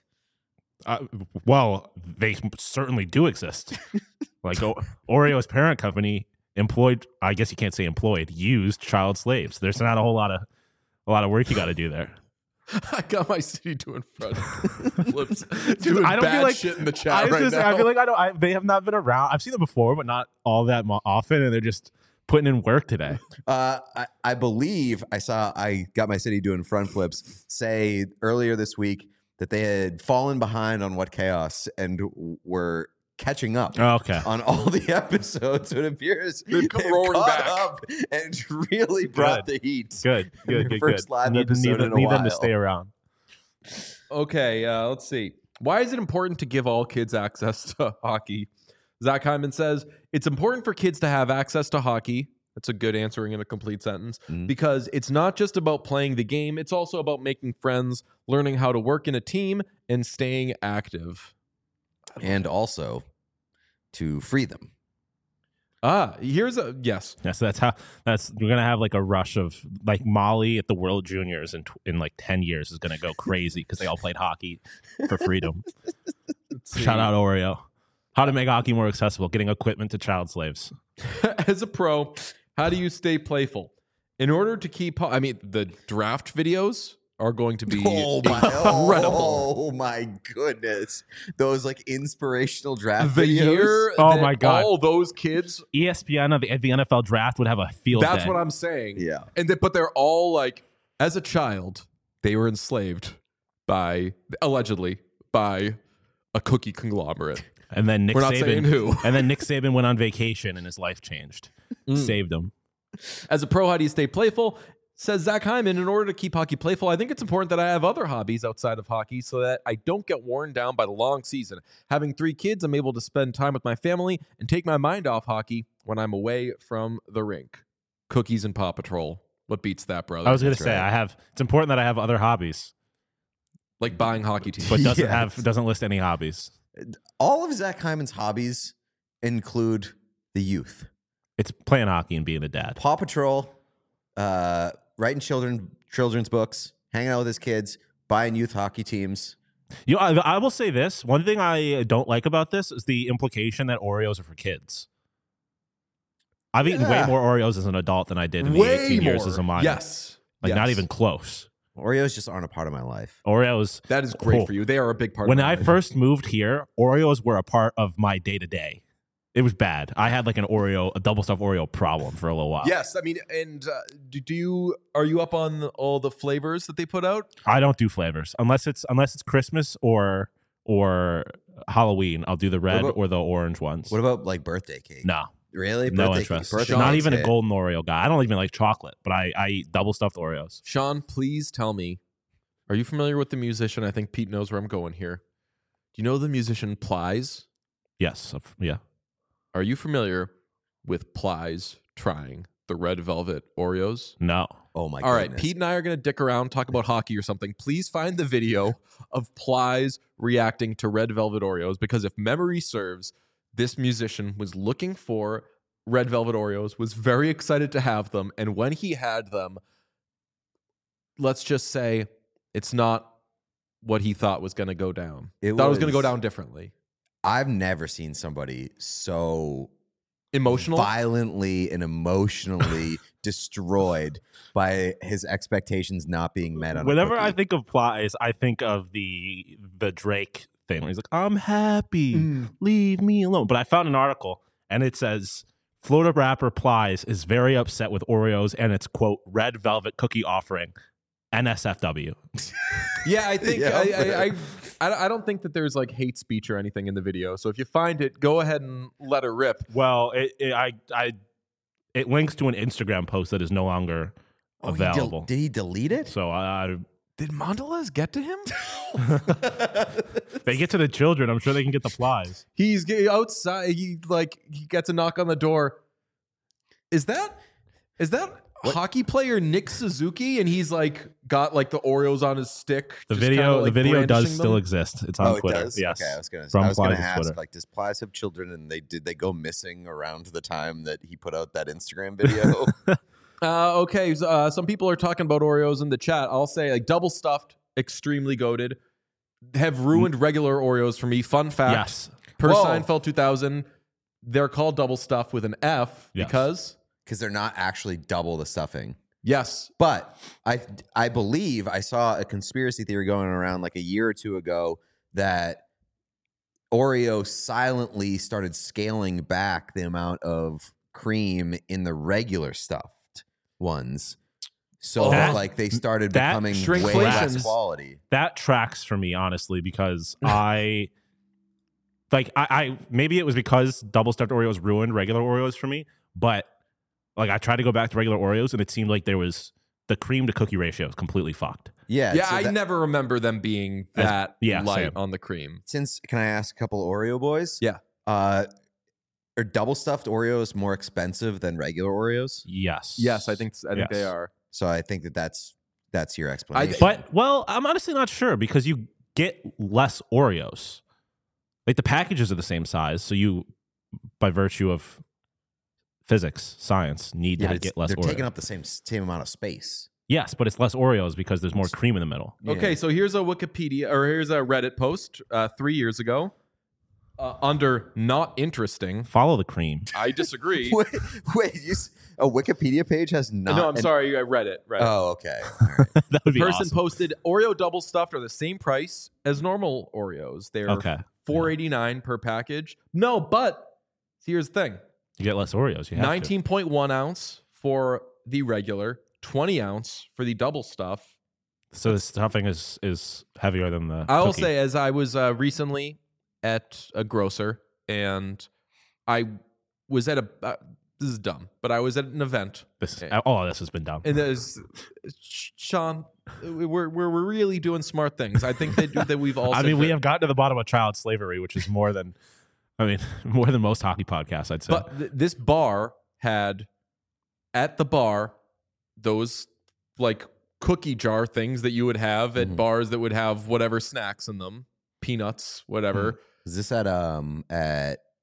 Well, they certainly do exist. Like Oreo's parent company employed, I guess you can't say employed, used child slaves. There's not a whole lot of work you got to do there. I got my city doing front flips. Doing I don't bad feel like shit in the I chat was right gonna say, now. I feel like they have not been around. I've seen them before, but not all that often, and they're just putting in work today. I believe I got my city doing front flips say earlier this week that they had fallen behind on What Chaos and were catching up Oh, okay. on all the episodes. It appears They've come roaring caught back. up and really brought the heat. Good. First live episode in a need them to while. stay around. Okay, let's see. Why is it important to give all kids access to hockey? Zach Hyman says, it's important for kids to have access to hockey. That's a good answering in a complete sentence. Because it's not just about playing the game, it's also about making friends, learning how to work in a team, and staying active. And also to free them. Here's a yes. Yeah, so we're gonna have like a rush of like Molly at the World Juniors in like 10 years is gonna go crazy because they all played hockey for freedom. Shout out Oreo. How to make hockey more accessible, getting equipment to child slaves. As a pro, how do you stay playful? In order to keep, I mean, the draft videos are going to be incredible. Oh my goodness. Those like inspirational draft The videos. year Oh that my God. all those kids, ESPN at the NFL draft would have a field that's day. what I'm saying. Yeah. But they're all like, as a child, they were enslaved allegedly by a cookie conglomerate. And then Nick We're not Saban, saying who. and then Nick Saban went on vacation and his life changed. Saved him. As a pro, how do you stay playful? Says Zach Hyman, in order to keep hockey playful, I think it's important that I have other hobbies outside of hockey so that I don't get worn down by the long season. Having 3 kids, I'm able to spend time with my family and take my mind off hockey when I'm away from the rink. Cookies and Paw Patrol. What beats that, brother? I was gonna That's say right. it's important that I have other hobbies, Like buying hockey teams. but Yes. doesn't list any hobbies. All of Zach Hyman's hobbies include the youth. It's playing hockey and being a dad. Paw Patrol, writing children's books, hanging out with his kids, buying youth hockey teams. You know, I will say this. One thing I don't like about this is the implication that Oreos are for kids. I've eaten way more Oreos as an adult than I did in the 18 years as a minor. Yes. Like, not even close. Oreos just aren't a part of my life. Oreos. That is great for you. They are a big part When of I my life. first moved here, Oreos were a part of my day-to-day. It was bad. I had like a double stuffed Oreo problem for a little while. Yes, I mean, and are you up on all the flavors that they put out? I don't do flavors unless it's Christmas or Halloween. I'll do the red or the orange ones. What about like birthday cake? No. Really? No Birthday interest. Birthday Not cake's even a hit. golden Oreo guy. I don't even like chocolate, but I eat double stuffed Oreos. Sean, please tell me, are you familiar with the musician? I think Pete knows where I'm going here. Do you know the musician Plies? Yes. Yeah. Are you familiar with Plies trying the red velvet Oreos? No. Oh my All right, goodness. Pete and I are going to dick around, talk about hockey or something. Please find the video of Plies reacting to red velvet Oreos, because if memory serves, this musician was looking for red velvet Oreos, was very excited to have them, and when he had them, let's just say it's not what he thought was going to go down. Thought it was going to go down differently. I've never seen somebody so Emotional? violently and emotionally destroyed by his expectations not being met on Whenever a I cookie. think of Plies, I think of the Drake thing where he's like, "I'm happy, leave me alone." But I found an article and it says Florida rapper Plies is very upset with Oreos and its quote red velvet cookie offering. NSFW. Yeah, I think Yeah. I don't think that there's like hate speech or anything in the video. So if you find it, go ahead and let it rip. Well, it links to an Instagram post that is no longer available. Did he delete it? So Did Mondelez get to him? they get to the children. I'm sure they can get the Plies. He's outside. He gets a knock on the door. Is that hockey player Nick Suzuki? And he's like got like the Oreos on his stick. The just kinda, video like, does brandishing still them? exist. It's on It Twitter. does? Yes. Okay, I was gonna From gonna Plies' ask, Twitter. like, does Plies have children, and did they go missing around the time that he put out that Instagram video? Okay, some people are talking about Oreos in the chat. I'll say like double stuffed, extremely goated, have ruined regular Oreos for me. Fun fact: Yes. per Whoa. Seinfeld 2000, they're called double stuffed with an F Yes. because Because they're not actually double the stuffing. yes, But I believe I saw a conspiracy theory going around like a year or two ago that Oreo silently started scaling back the amount of cream in the regular stuffed ones. So like they started that becoming way shrinkflation less is- quality. That tracks for me, honestly, because I maybe it was because double stuffed Oreos ruined regular Oreos for me, but like I tried to go back to regular Oreos and it seemed like there was the cream to cookie ratio was completely fucked. Yeah. yeah. so I that- never remember them being As- that yeah, light same. on the cream. Since can I ask a couple of Oreo boys? Yeah. Are double stuffed Oreos more expensive than regular Oreos? Yes. Yes, I think Yes. they are. So I think that's your explanation. But well, I'm honestly not sure because you get less Oreos. Like the packages are the same size, so you, by virtue of physics, science, need to get less they're Oreos. taking up the same amount of space. Yes, but it's less Oreos because there's more cream in the middle. Okay, so here's a Reddit post 3 years ago under not interesting. Follow the cream. I disagree. Wait, a Wikipedia page has not. No, I'm sorry. I read it. Oh, okay. All right. That would be Person awesome. posted Oreo double stuffed are the same price as normal Oreos. They're Okay. $4.89 per package. No, but here's the thing: You get less Oreos. You have 19.1 ounce for the regular, 20 ounce for the double stuff. to. So the stuffing is heavier than the. I will cookie. say, as I was recently at a grocer, and I was at a. This is dumb, but I was at an event. this has been done. And there's Sean. We're really doing smart things. I think that we've all. I said mean, we that- have gotten to the bottom of child slavery, which is more than, more than most hockey podcasts, I'd say. But this bar had at the bar those like cookie jar things that you would have at bars that would have whatever snacks in them, peanuts, whatever. Is this at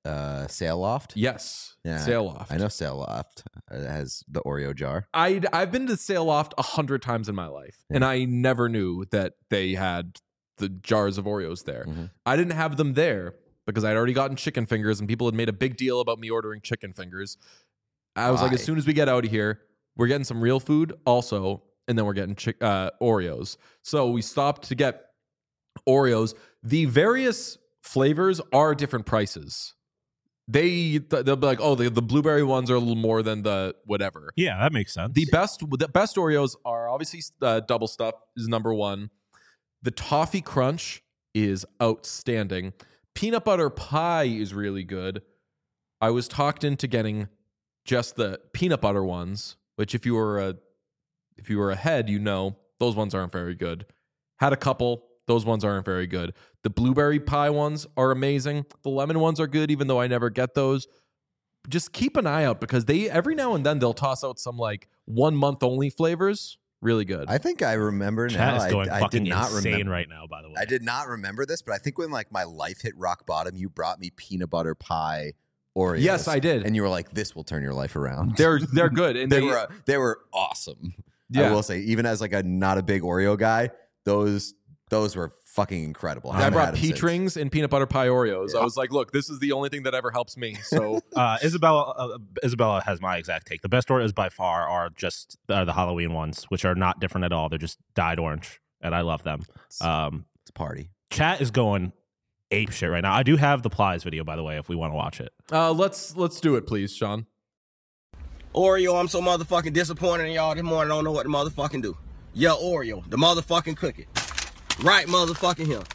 Sail Loft? Yes, Yeah, Sail Loft. I know Sail Loft has the Oreo jar. I've been to Sail Loft 100 times in my life, and I never knew that they had the jars of Oreos there. I didn't have them there because I'd already gotten chicken fingers, and people had made a big deal about me ordering chicken fingers. I was like, as soon as we get out of here, we're getting some real food also, and then we're getting Oreos. So we stopped to get Oreos. The various flavors are different prices. They'll be like, oh, the blueberry ones are a little more than the whatever. Yeah, that makes sense. The best Oreos are obviously double stuff is number one. The toffee crunch is outstanding. Peanut butter pie is really good. I was talked into getting just the peanut butter ones, which if you were ahead, you know those ones aren't very good. Had a couple. Those ones aren't very good. The blueberry pie ones are amazing. The lemon ones are good, even though I never get those. Just keep an eye out because they every now and then they'll toss out some like 1 month only flavors. Really good. I think I remember Chat now. is going I fucking did not insane remember right now, by the way. I did not remember this, but I think when like my life hit rock bottom, you brought me peanut butter pie Oreos. Yes, I did. And you were like, "This will turn your life around." They're good, and they were awesome. Yeah. I will say, even as like a not a big Oreo guy, those were fucking incredible. I brought peach rings and peanut butter pie Oreos. Yeah. I was like, look, this is the only thing that ever helps me. So Isabella has my exact take. The best Oreos by far are just the Halloween ones, which are not different at all. They're just dyed orange, and I love them. It's a party. Chat is going ape shit right now. I do have the Plies video, by the way, if we want to watch it. let's do it, please, Sean. Oreo, I'm so motherfucking disappointed in y'all this morning. I don't know what to motherfucking do. Yeah, Oreo, the motherfucking cookie. Right motherfucking here.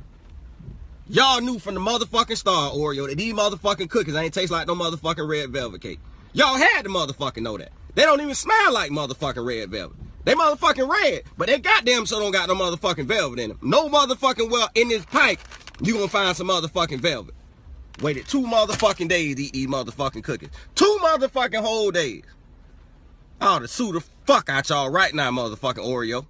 Y'all knew from the motherfucking start, Oreo, that these motherfucking cookies ain't taste like no motherfucking red velvet cake. Y'all had to motherfucking know that. They don't even smell like motherfucking red velvet. They motherfucking red, but they goddamn so don't got no motherfucking velvet in them. No motherfucking well in this pipe, you gonna find some motherfucking velvet. Waited 2 motherfucking days to eat these motherfucking cookies. 2 motherfucking whole days. I ought to sue the fuck out y'all right now, motherfucking Oreo.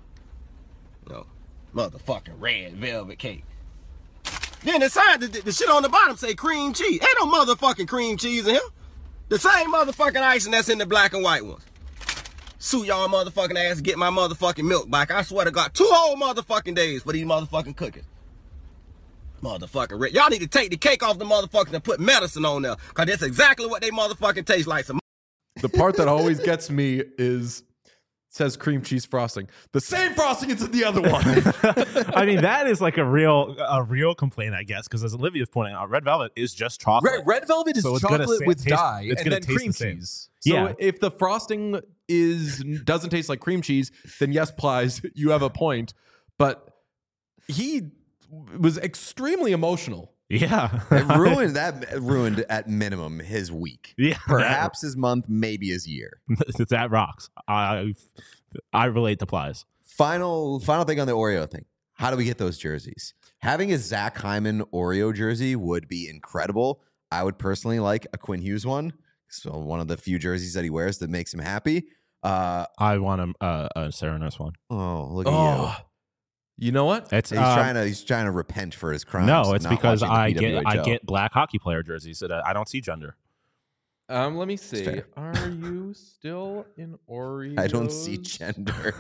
No, motherfucking red velvet cake. Then the sign, the shit on the bottom say cream cheese. Ain't no motherfucking cream cheese in here. The same motherfucking icing that's in the black and white ones. Sue y'all motherfucking ass to get my motherfucking milk back. I swear to God, 2 whole motherfucking days for these motherfucking cookies. Motherfucking red. Y'all need to take the cake off the motherfuckers and put medicine on there. Cause that's exactly what they motherfucking taste like. The part that always gets me is says cream cheese frosting. The same frosting is in the other one. I mean, that is like a real complaint, I guess, because as Olivia's pointing out, red velvet is just chocolate. Red velvet is So it's chocolate gonna with taste- dye it's and gonna then taste cream the same. cheese. So Yeah. if the frosting doesn't taste like cream cheese, then yes, Plies, you have a point. But he was extremely emotional. Yeah. It ruined at minimum his week. Yeah. Perhaps his month, maybe his year. That rocks. I relate to Plies. Final thing on the Oreo thing. How do we get those jerseys? Having a Zach Hyman Oreo jersey would be incredible. I would personally like a Quinn Hughes one. So one of the few jerseys that he wears that makes him happy. I want a Serenus one. Oh, look at you. You know what? It's He's trying to repent for his crimes. no, it's not because watching the I PWHL. get black hockey player jerseys that I don't see gender. Let me see. fair. Are you still in Oreos? I don't see gender.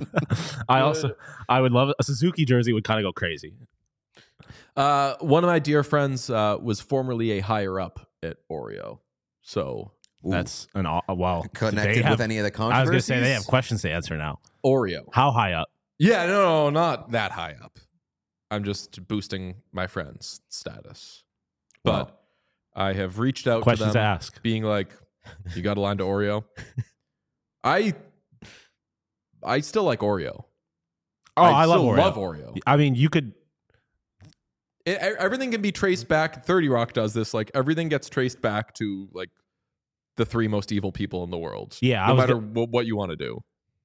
I would love a Suzuki jersey would kind of go crazy. One of my dear friends was formerly a higher up at Oreo. So That's an well Connected with any of the I was controversies? going to say they have questions to answer now. Oreo. How high up? Yeah, no, not that high up. I'm just boosting my friend's status. But I have reached out Questions to to them, ask. being like, you got a line to Oreo? I still like Oreo. Oh, I love still Oreo. love Oreo. I mean, you could. Everything can be traced back. 30 Rock does this. Like, everything gets traced back to, like, the 3 most evil people in the world. Yeah, No matter what you want to do.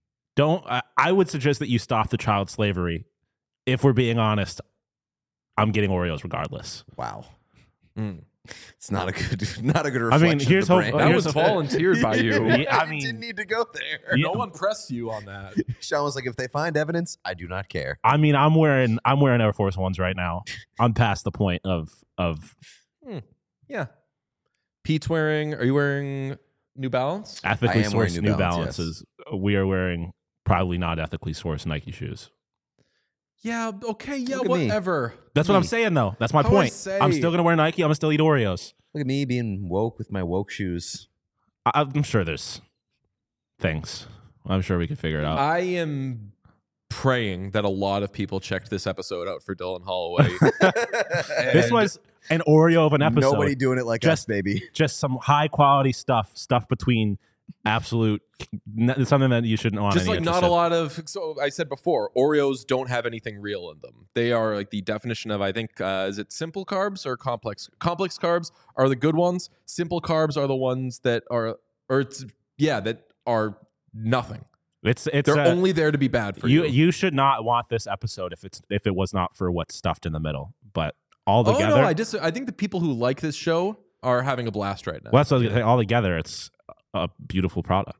I would suggest that you stop the child slavery. If we're being honest, I'm getting Oreos regardless. Wow. Mm. It's not a good reflection. I mean, here's of the hope- brand. That here's was the- volunteered by you. Yeah, I You mean, didn't need to go there. Yeah. No one pressed you on that. Sean was like, if they find evidence, I do not care. I mean, I'm wearing Air Force Ones right now. I'm past the point of Yeah. Pete's wearing. Are you wearing New Balance? Ethically I am wearing sourced New New Balance, Balances. We are wearing probably not ethically sourced Nike shoes. Yeah. Okay. Yeah. Look at me. Whatever. That's what I'm saying, though. That's my How do I point. say? I'm still gonna wear Nike. I'm gonna still eat Oreos. Look at me being woke with my woke shoes. I'm sure there's things. I'm sure we can figure it out. I am praying that a lot of people checked this episode out for Dylan Holloway. This was an Oreo of an episode. Nobody doing it like Just- us, baby. Just some high quality stuff between absolute. It's something that you shouldn't want. just any like not interest a in. lot of. So I said before, Oreos don't have anything real in them. They are like the definition of, I think, is it simple carbs or complex? Complex carbs are the good ones. Simple carbs are the ones that are, that are nothing. It's They're only there to be bad for you. You should not want this episode if it was not for what's stuffed in the middle. But all together, Oh no, I think the people who like this show are having a blast right now. well, that's what I was gonna say. All together, it's a beautiful product.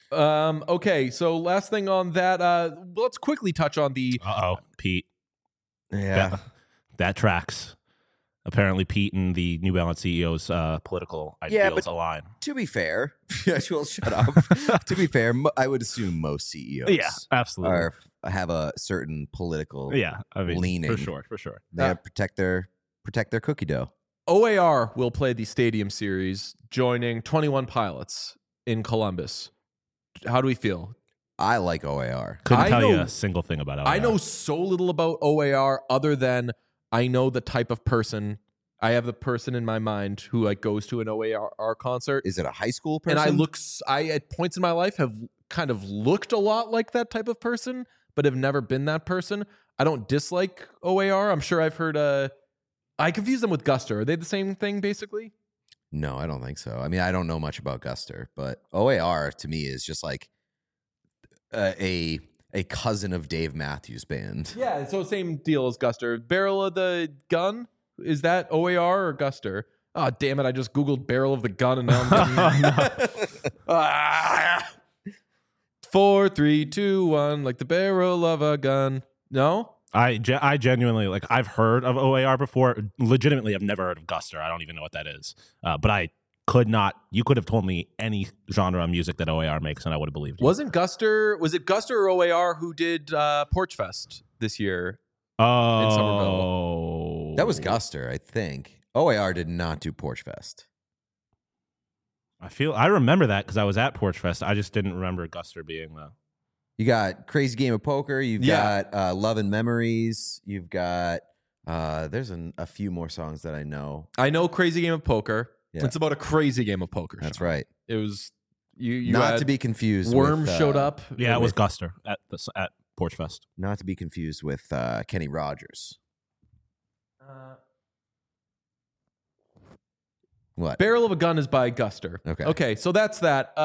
Okay, so last thing on that, let's quickly touch on the. Pete. Yeah. That tracks. Apparently, Pete and the New Balance CEO's political Yeah, ideals but- align. To be fair, well, shut up. To be fair, I would assume most CEOs Yeah, absolutely. have a certain political Yeah, I mean, leaning. for sure. They have to protect their cookie dough. OAR will play the Stadium Series, joining 21 Pilots in Columbus. How do we feel? I like OAR. Couldn't I tell you know- a single thing about it. I know so little about OAR other than I know the type of person. I have the person in my mind who like goes to an OAR concert. Is it a high school person? And I at points in my life have kind of looked a lot like that type of person, but have never been that person. I don't dislike OAR. I'm sure I've heard. I confuse them with Guster. Are they the same thing basically? No, I don't think so. I mean, I don't know much about Guster, but OAR to me is just like a cousin of Dave Matthews Band. Yeah, so same deal as Guster. Barrel of the Gun, is that OAR or Guster? Oh damn it! I just googled Barrel of the Gun and now I'm getting 4, 3, 2, 1, like the barrel of a gun. No, I genuinely like. I've heard of OAR before. Legitimately, I've never heard of Guster. I don't even know what that is. But I could not. You could have told me any genre of music that OAR makes, and I would have believed you. was it Guster or OAR who did Porch Fest this year? Oh, Somerville. That was Guster, I think. OAR did not do Porch Fest. I remember that because I was at Porch Fest. I just didn't remember Guster being the. You got Crazy Game of Poker. You've got Love and Memories. You've got there's a few more songs that I know. I know Crazy Game of Poker. Yeah. It's about a crazy game of poker. That's Sean. right. It was you Not had to be confused. Worm with, showed up. Yeah, it was with- Guster at Porch Fest. Not to be confused with Kenny Rogers. What? Barrel of a Gun is by Guster. Okay. Okay, so that's that.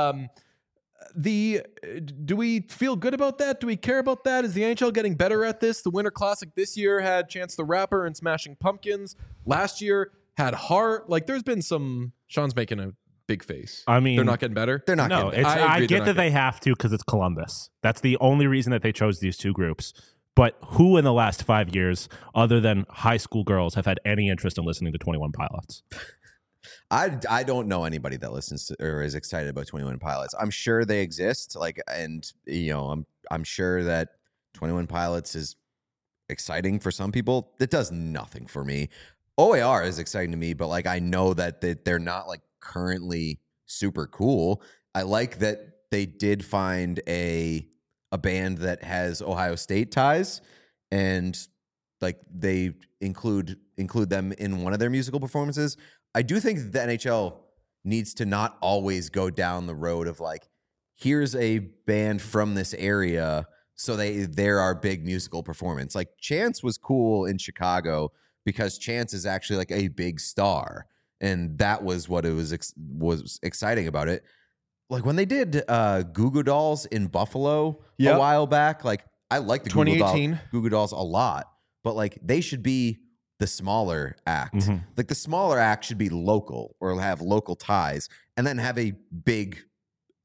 Do we feel good about that? Do we care about that? Is the NHL getting better at this? The Winter Classic this year had Chance the Rapper and Smashing Pumpkins. Last year had Heart. Like, there's been some. Sean's making a big face. I mean, They're not getting better. They're not. No, getting it's, better. I I agree they're get not that they have to because it's Columbus. That's the only reason that they chose these two groups. But who in the last 5 years, other than high school girls, have had any interest in listening to 21 Pilots? I don't know anybody that listens to or is excited about 21 Pilots. I'm sure they exist. And I'm sure that 21 Pilots is exciting for some people. It does nothing for me. OAR is exciting to me, but I know that they're not currently super cool. I like that they did find a band that has Ohio State ties, and they include them in one of their musical performances. I do think the NHL needs to not always go down the road of here's a band from this area, so they're our big musical performance. Chance was cool in Chicago because Chance is actually a big star, and that was what it was exciting about it. When they did Goo Goo Dolls in Buffalo a while back, I like the 2018 Goo Goo Dolls a lot, but they should be the smaller act. Mm-hmm. The smaller act should be local or have local ties, and then have a big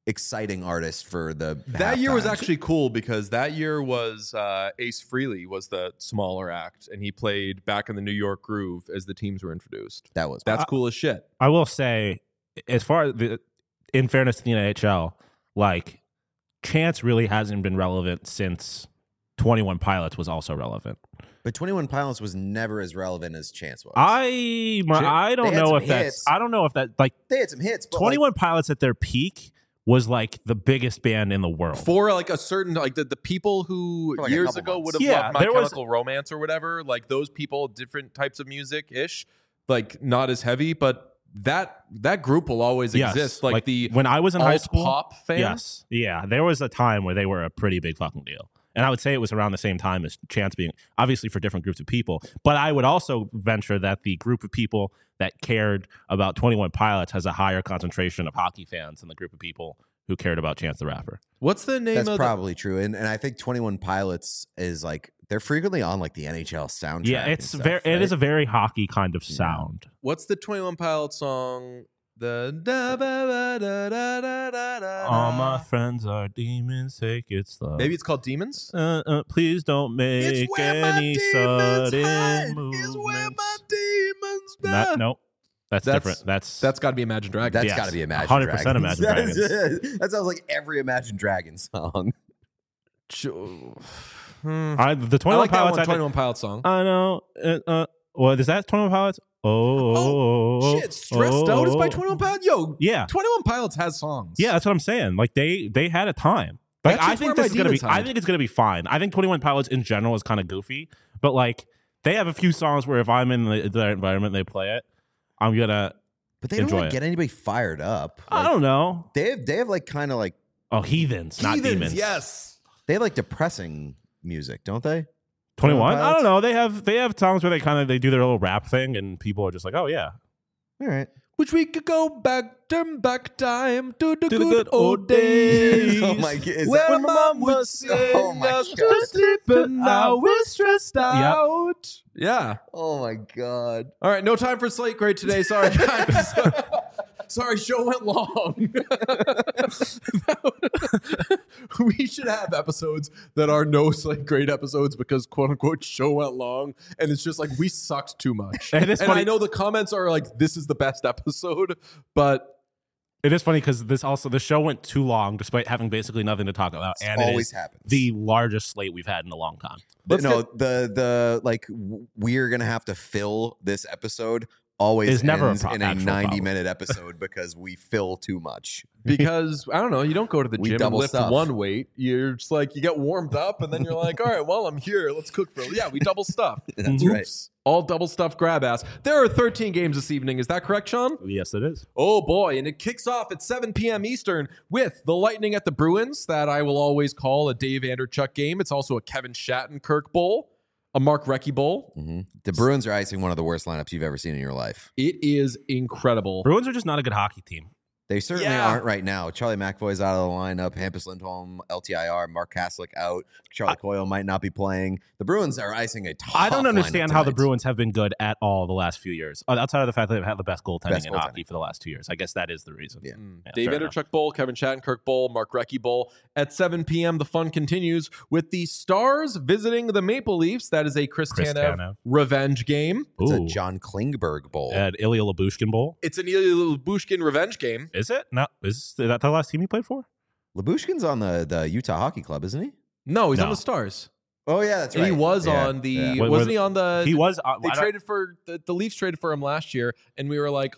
exciting artist for the That year was halftimes. actually cool because that year was Ace Frehley was the smaller act, and he played Back in the New York Groove as the teams were introduced. That's cool as shit. I will say, as far as in fairness to the NHL, like Chance really hasn't been relevant since 21 Pilots was also relevant. But 21 Pilots was never as relevant as Chance was. I don't They had know some if that's hits. I don't know if that like They had some hits, but 21 Pilots at their peak was like the biggest band in the world. For like a certain like the people who For like a years couple ago months. would have Yeah, loved My there was- Chemical Romance or whatever, like those people, different types of music ish, like not as heavy, but that group will always Yes, exist. Like the when I was in high alt school, pop fans. yes, yeah, there was a time where they were a pretty big fucking deal. And I would say it was around the same time as Chance being, obviously for different groups of people. But I would also venture that the group of people that cared about 21 Pilots has a higher concentration of hockey fans than the group of people who cared about Chance the Rapper. What's the name that's of probably true. And I think 21 Pilots is like, they're frequently on like the NHL soundtrack. Yeah, it's it is a very hockey kind of sound. what's the 21 Pilots song? The da ba ba da da da da da. All my friends are demons, take it slow. Maybe it's called Demons. Please don't make any sudden movements. demons Nope. That's different. That's got to be Imagine Dragons. That's Yes, got to be Imagine 100% Dragons. Imagine Dragons. That sounds like every Imagine Dragons song. the 21 I like that Pilots. one, I think- 21 Pilots song. I know. What is that? 21 Pilots? Oh, Shit, Stressed Out is by 21 Pilots. Yo, Yeah. 21 Pilots has songs. Yeah, that's what I'm saying. Like they had a time. Like That's I just think where this my is gonna be. demons hide. I think it's gonna be fine. I think 21 Pilots in general is kind of goofy, but like they have a few songs where if I'm in the environment they play it, I'm gonna. But they don't Enjoy like it. get anybody fired up. I Like, don't know. they have like kind of like Heathens, not demons. Yes. they have like depressing music, don't they? 21. I Pilots? don't know. They have songs where they do their little rap thing, and people are just like, oh yeah. All right. Which we could go back time to the the good old days. Oh my God, is Where that- mom would sing Oh my us God. to sleep, and now we're stressed out. Yeah. Oh my God. All right, no time for Slate Grade today. Sorry, guys. Sorry, show went long. We should have episodes that are no Slate Grade episodes because quote unquote show went long, and it's just like we sucked too much. And it's And funny- I know the comments are like, "This is the best episode," but It is funny because the show went too long despite having basically nothing to talk about, and it always is happens. the largest slate we've had in a long time. The like we're gonna have to fill this episode always Is never a ends in a actual 90-minute episode because we fill too much. because I don't know, you don't go to the We gym and double lift stuff. one weight. You're just like you get warmed up, and then you're like, "All right, well, I'm here. Let's cook for." Yeah, we double stuff. That's right. All double stuffed grab ass. There are 13 games this evening. Is that correct, Sean? Yes, it is. Oh boy, and it kicks off at 7 p.m. Eastern with the Lightning at the Bruins, that I will always call a Dave Anderchuk game. It's also a Kevin Shattenkirk Bowl, a Mark Recchi Bowl. The Bruins are icing one of the worst lineups you've ever seen in your life. It is incredible. Bruins are just not a good hockey team. They certainly Yeah. aren't right now. Charlie McAvoy's out of the lineup. Hampus Lindholm, LTIR. Mark Kaslick out. Charlie Coyle might not be playing. The Bruins are icing a tough I don't understand lineup how the tonight. Bruins have been good at all the last few years, outside of the fact that they've had the best goaltending Best in goaltending. hockey for the last 2 years. I guess that is the reason. Yeah. Dave fair enough. Anderchuk Bowl, Kevin Shattenkirk Bowl, Mark Recchi Bowl. At 7 p.m., the fun continues with the Stars visiting the Maple Leafs. That is a Chris Tanev Tanev. revenge game. It's a Ooh. John Klingberg Bowl. At Ilya Labushkin Bowl. It's an Ilya Bushkin revenge game. Is it? No. Is that the last team he played for? Labushkin's on the Utah Hockey Club, isn't he? No, he's on No. the Stars. Oh, yeah, that's And right. he was Yeah, on the. yeah. Wait, wasn't wait, he on the? He was. They traded for the Leafs traded for him last year, and we were like,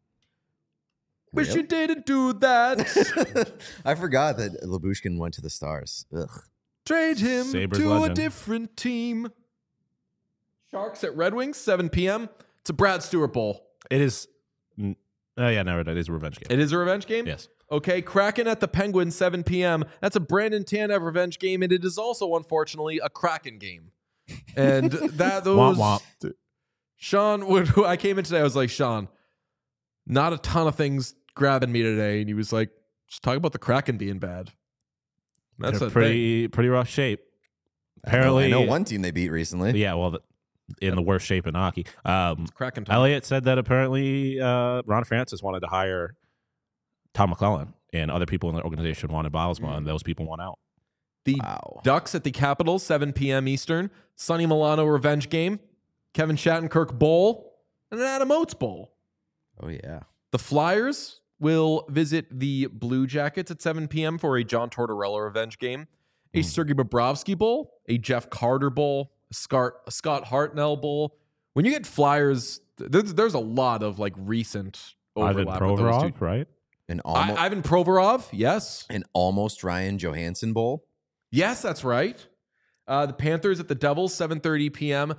"Wish Really? you didn't do that. I forgot that Labushkin went to the Stars. Ugh. Trade him Sabres to a legend. different team." Sharks at Red Wings, 7 p.m. It's a Brad Stewart Bowl. It is. Oh yeah, no, it is a revenge game. It is a revenge game. Yes. Okay, Kraken at the Penguins, 7 p.m. That's a Brandon Tanev revenge game, and it is also, unfortunately, a Kraken game. And those Womp Sean, when I came in today, I was like, Sean, not a ton of things grabbing me today, and he was like, just talk about the Kraken being bad. That's They're a thing. pretty rough shape. Apparently, I know one team they beat recently. Yeah, well, in the worst shape in hockey. Kraken time. Elliot said that apparently Ron Francis wanted to hire Tom McClellan and other people in the organization wanted Bylsma, and those people won out. The Wow. Ducks at the Capitals, 7 p.m. Eastern. Sonny Milano revenge game. Kevin Shattenkirk Bowl. And an Adam Oates Bowl. Oh, yeah. The Flyers will visit the Blue Jackets at 7 p.m. for a John Tortorella revenge game. A Sergei Bobrovsky Bowl. A Jeff Carter Bowl. A Scott Hartnell Bowl. When you get Flyers, there's a lot of like recent Ivan overlap with those two. Provorov, right? An almost, Ivan Provorov, yes. an almost Ryan Johansson Bowl. Yes, that's right. The Panthers at the Devils, 7:30 p.m.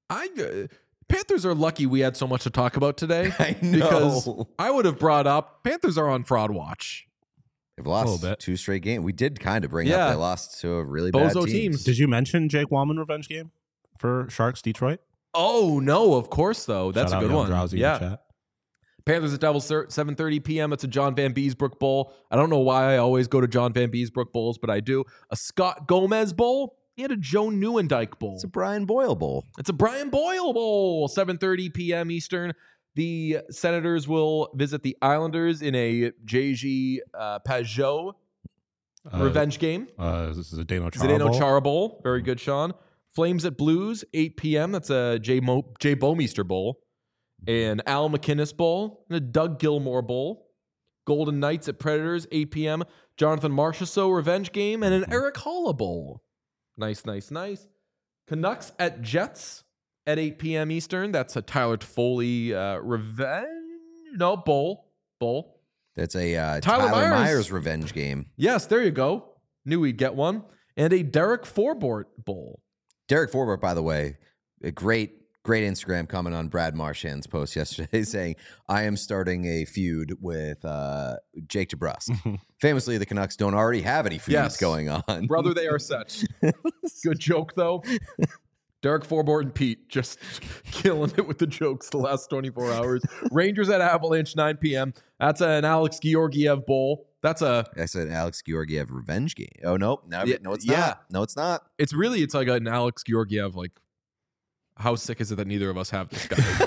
Panthers are lucky we had so much to talk about today. I know. Because I would have brought up Panthers are on fraud watch. They've A lost little bit. 2 straight games. We did kind of bring Yeah. up they lost to a really bad Bozo team. teams. Did you mention Jake Wallman revenge game for Sharks Detroit? Oh, no, of course, though. That's Shout a out good Young one. Drowsy in Yeah. the chat. Panthers at Devils, 7:30 p.m. It's a John Van Beesbrook Bowl. I don't know why I always go to John Van Beesbrook Bowls, but I do. A Scott Gomez Bowl. He had a Joe Neuendijk Bowl. It's a Brian Boyle Bowl. It's a Brian Boyle Bowl, 7:30 p.m. Eastern. The Senators will visit the Islanders in a JG Pajot revenge game. This is a Dano Chara Zdeno Bowl. Chara Bowl. Very good, Sean. Flames at Blues, 8 p.m. That's a Jay Bouwmeester Bowl. An Al McInnes Bowl. And a Doug Gilmore Bowl. Golden Knights at Predators, 8 p.m. Jonathan Marchessault revenge game. And an Eric Holla Bowl. Nice, nice, nice. Canucks at Jets at 8 p.m. Eastern. That's a Tyler Toffoli revenge. No, bowl. That's a Tyler Tyler Myers. Myers revenge game. Yes, there you go. Knew we'd get one. And a Derek Forbort Bowl. Derek Forbort, by the way, a great Instagram comment on Brad Marchand's post yesterday saying, I am starting a feud with Jake DeBrusk. Famously, the Canucks don't already have any feuds Yes. going on. Brother, they are set. Good joke, though. Derek Forbort and Pete just killing it with the jokes the last 24 hours. Rangers at Avalanche, 9 p.m. That's an Alex Georgiev Bowl. That's a... I said Alex Georgiev revenge game. Oh, nope. No, Yeah, no, it's yeah. not. No, it's not. It's like an Alex Georgiev, like, how sick is it that neither of us have this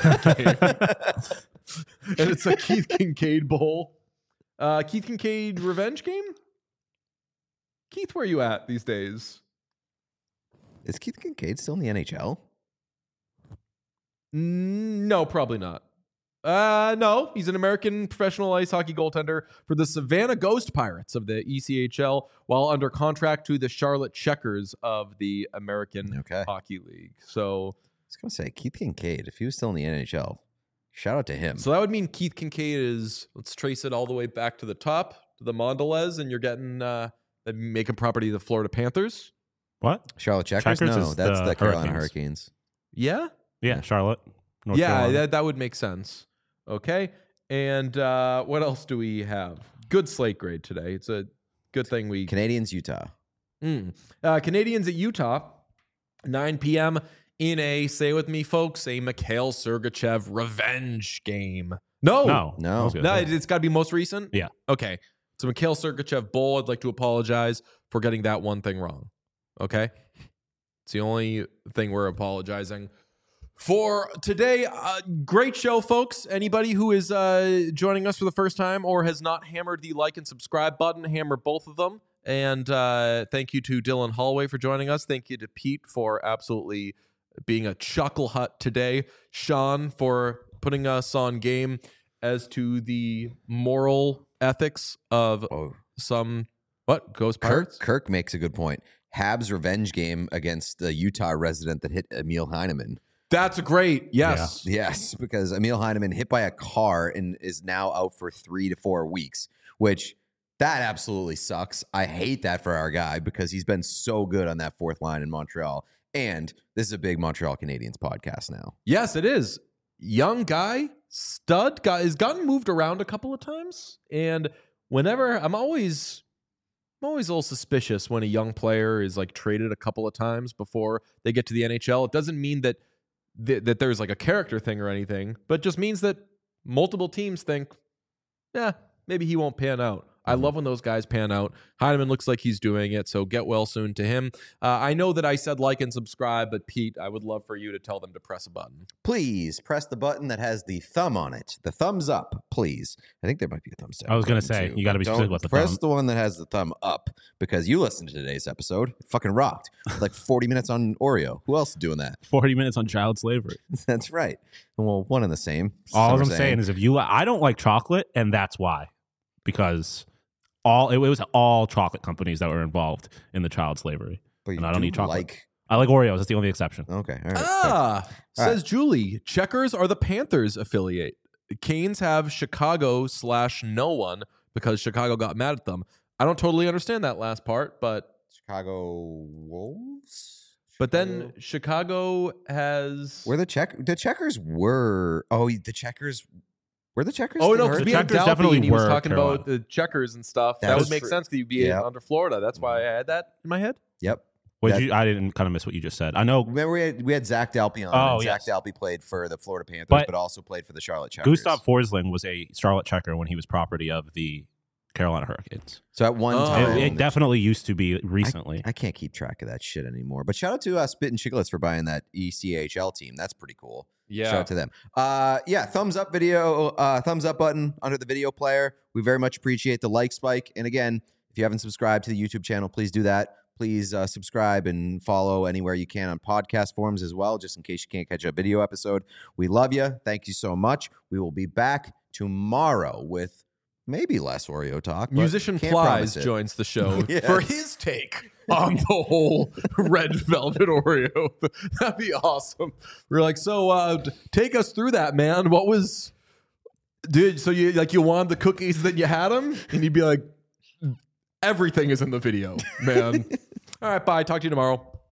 guy? And it's a Keith Kincaid Bowl. Keith Kincaid revenge game? Keith, where are you at these days? Is Keith Kincaid still in the NHL? No, probably not. No, he's an American professional ice hockey goaltender for the Savannah Ghost Pirates of the ECHL while under contract to the Charlotte Checkers of the American Hockey League. So I was going to say, Keith Kincaid, if he was still in the NHL, shout out to him. So that would mean Keith Kincaid is, let's trace it all the way back to the top, to the Mondelez, and you're getting making property of the Florida Panthers. What? Charlotte Checkers? Checkers No, is that's the Carolina Hurricanes. Hurricanes. Yeah? Yeah, Charlotte. North Carolina. That would make sense. Okay. And what else do we have? Good slate grade today. It's a good thing we... Canadians, Utah. Canadians at Utah, 9 p.m. in a, say with me, folks, a Mikhail Sergachev revenge game. No. It's got to be most recent? Yeah. Okay. So Mikhail Sergachev Bowl, I'd like to apologize for getting that one thing wrong. Okay? It's the only thing we're apologizing for today. Great show, folks. Anybody who is joining us for the first time or has not hammered the like and subscribe button, hammer both of them. And thank you to Dylan Holloway for joining us. Thank you to Pete for absolutely being a chuckle hut today. Sean for putting us on game as to the moral ethics of some Ghost Pirates. Kirk makes a good point. Habs revenge game against the Utah resident that hit Emil Heineman. That's great. Yes. Yeah. Yes, because Emil Heineman hit by a car and is now out for 3 to 4 weeks, which that absolutely sucks. I hate that for our guy because he's been so good on that fourth line in Montreal. And this is a big Montreal Canadiens podcast now. Yes, it is. Young guy, stud guy, has gotten moved around a couple of times. And whenever I'm always a little suspicious when a young player is like traded a couple of times before they get to the NHL. It doesn't mean that that there's like a character thing or anything, but just means that multiple teams think, yeah, maybe he won't pan out. I love when those guys pan out. Heineman looks like he's doing it, so get well soon to him. I know that I said like and subscribe, but Pete, I would love for you to tell them to press a button. Please press the button that has the thumb on it. The thumbs up, please. I think there might be a thumbs down. I was going to say, too, you got to be specific with the press thumb. the one that has the thumb up because you listened to today's episode. It fucking rocked. Like 40 minutes on Oreo. Who else is doing that? 40 minutes on child slavery. That's right. Well, one and the same. All I'm saying is I don't like chocolate, and that's why. Because it was all chocolate companies that were involved in the child slavery. And I don't eat chocolate. I like Oreos. That's the only exception. Okay. All right. Says Julie, Checkers are the Panthers affiliate. Canes have Chicago/no one because Chicago got mad at them. I don't totally understand that last part, but Chicago Wolves? But then Chicago has the Checkers were the Checkers. Were the Checkers? Oh no, because we had Checkers Dalby definitely and he was were talking Carolina. about the Checkers and stuff. That That would was make true. sense because you'd be under Florida. That's why I had that in my head. Yep. I didn't kind of miss what you just said. I know. Remember we had Zach Dalpe on. Oh, and yes. Zach Dalpe played for the Florida Panthers, but also played for the Charlotte Checkers. Gustav Forsling was a Charlotte Checker when he was property of the Carolina Hurricanes. So at one time, it definitely used to be recently. I can't keep track of that shit anymore. But shout out to Spit and Chicklets for buying that ECHL team. That's pretty cool. Yeah. Shout out to them. Thumbs up video, thumbs up button under the video player. We very much appreciate the like spike. And again, if you haven't subscribed to the YouTube channel, please do that. Please subscribe and follow anywhere you can on podcast forums as well, just in case you can't catch a video episode. We love you. Thank you so much. We will be back tomorrow with maybe less Oreo talk. but Musician can't Plies promise it. joins the show Yes. for his take on the whole red velvet Oreo. That'd be awesome. We're like, so take us through that, man. What was, dude? So you wanted the cookies, then you had them, and you'd be like, everything is in the video, man. All right, bye. Talk to you tomorrow.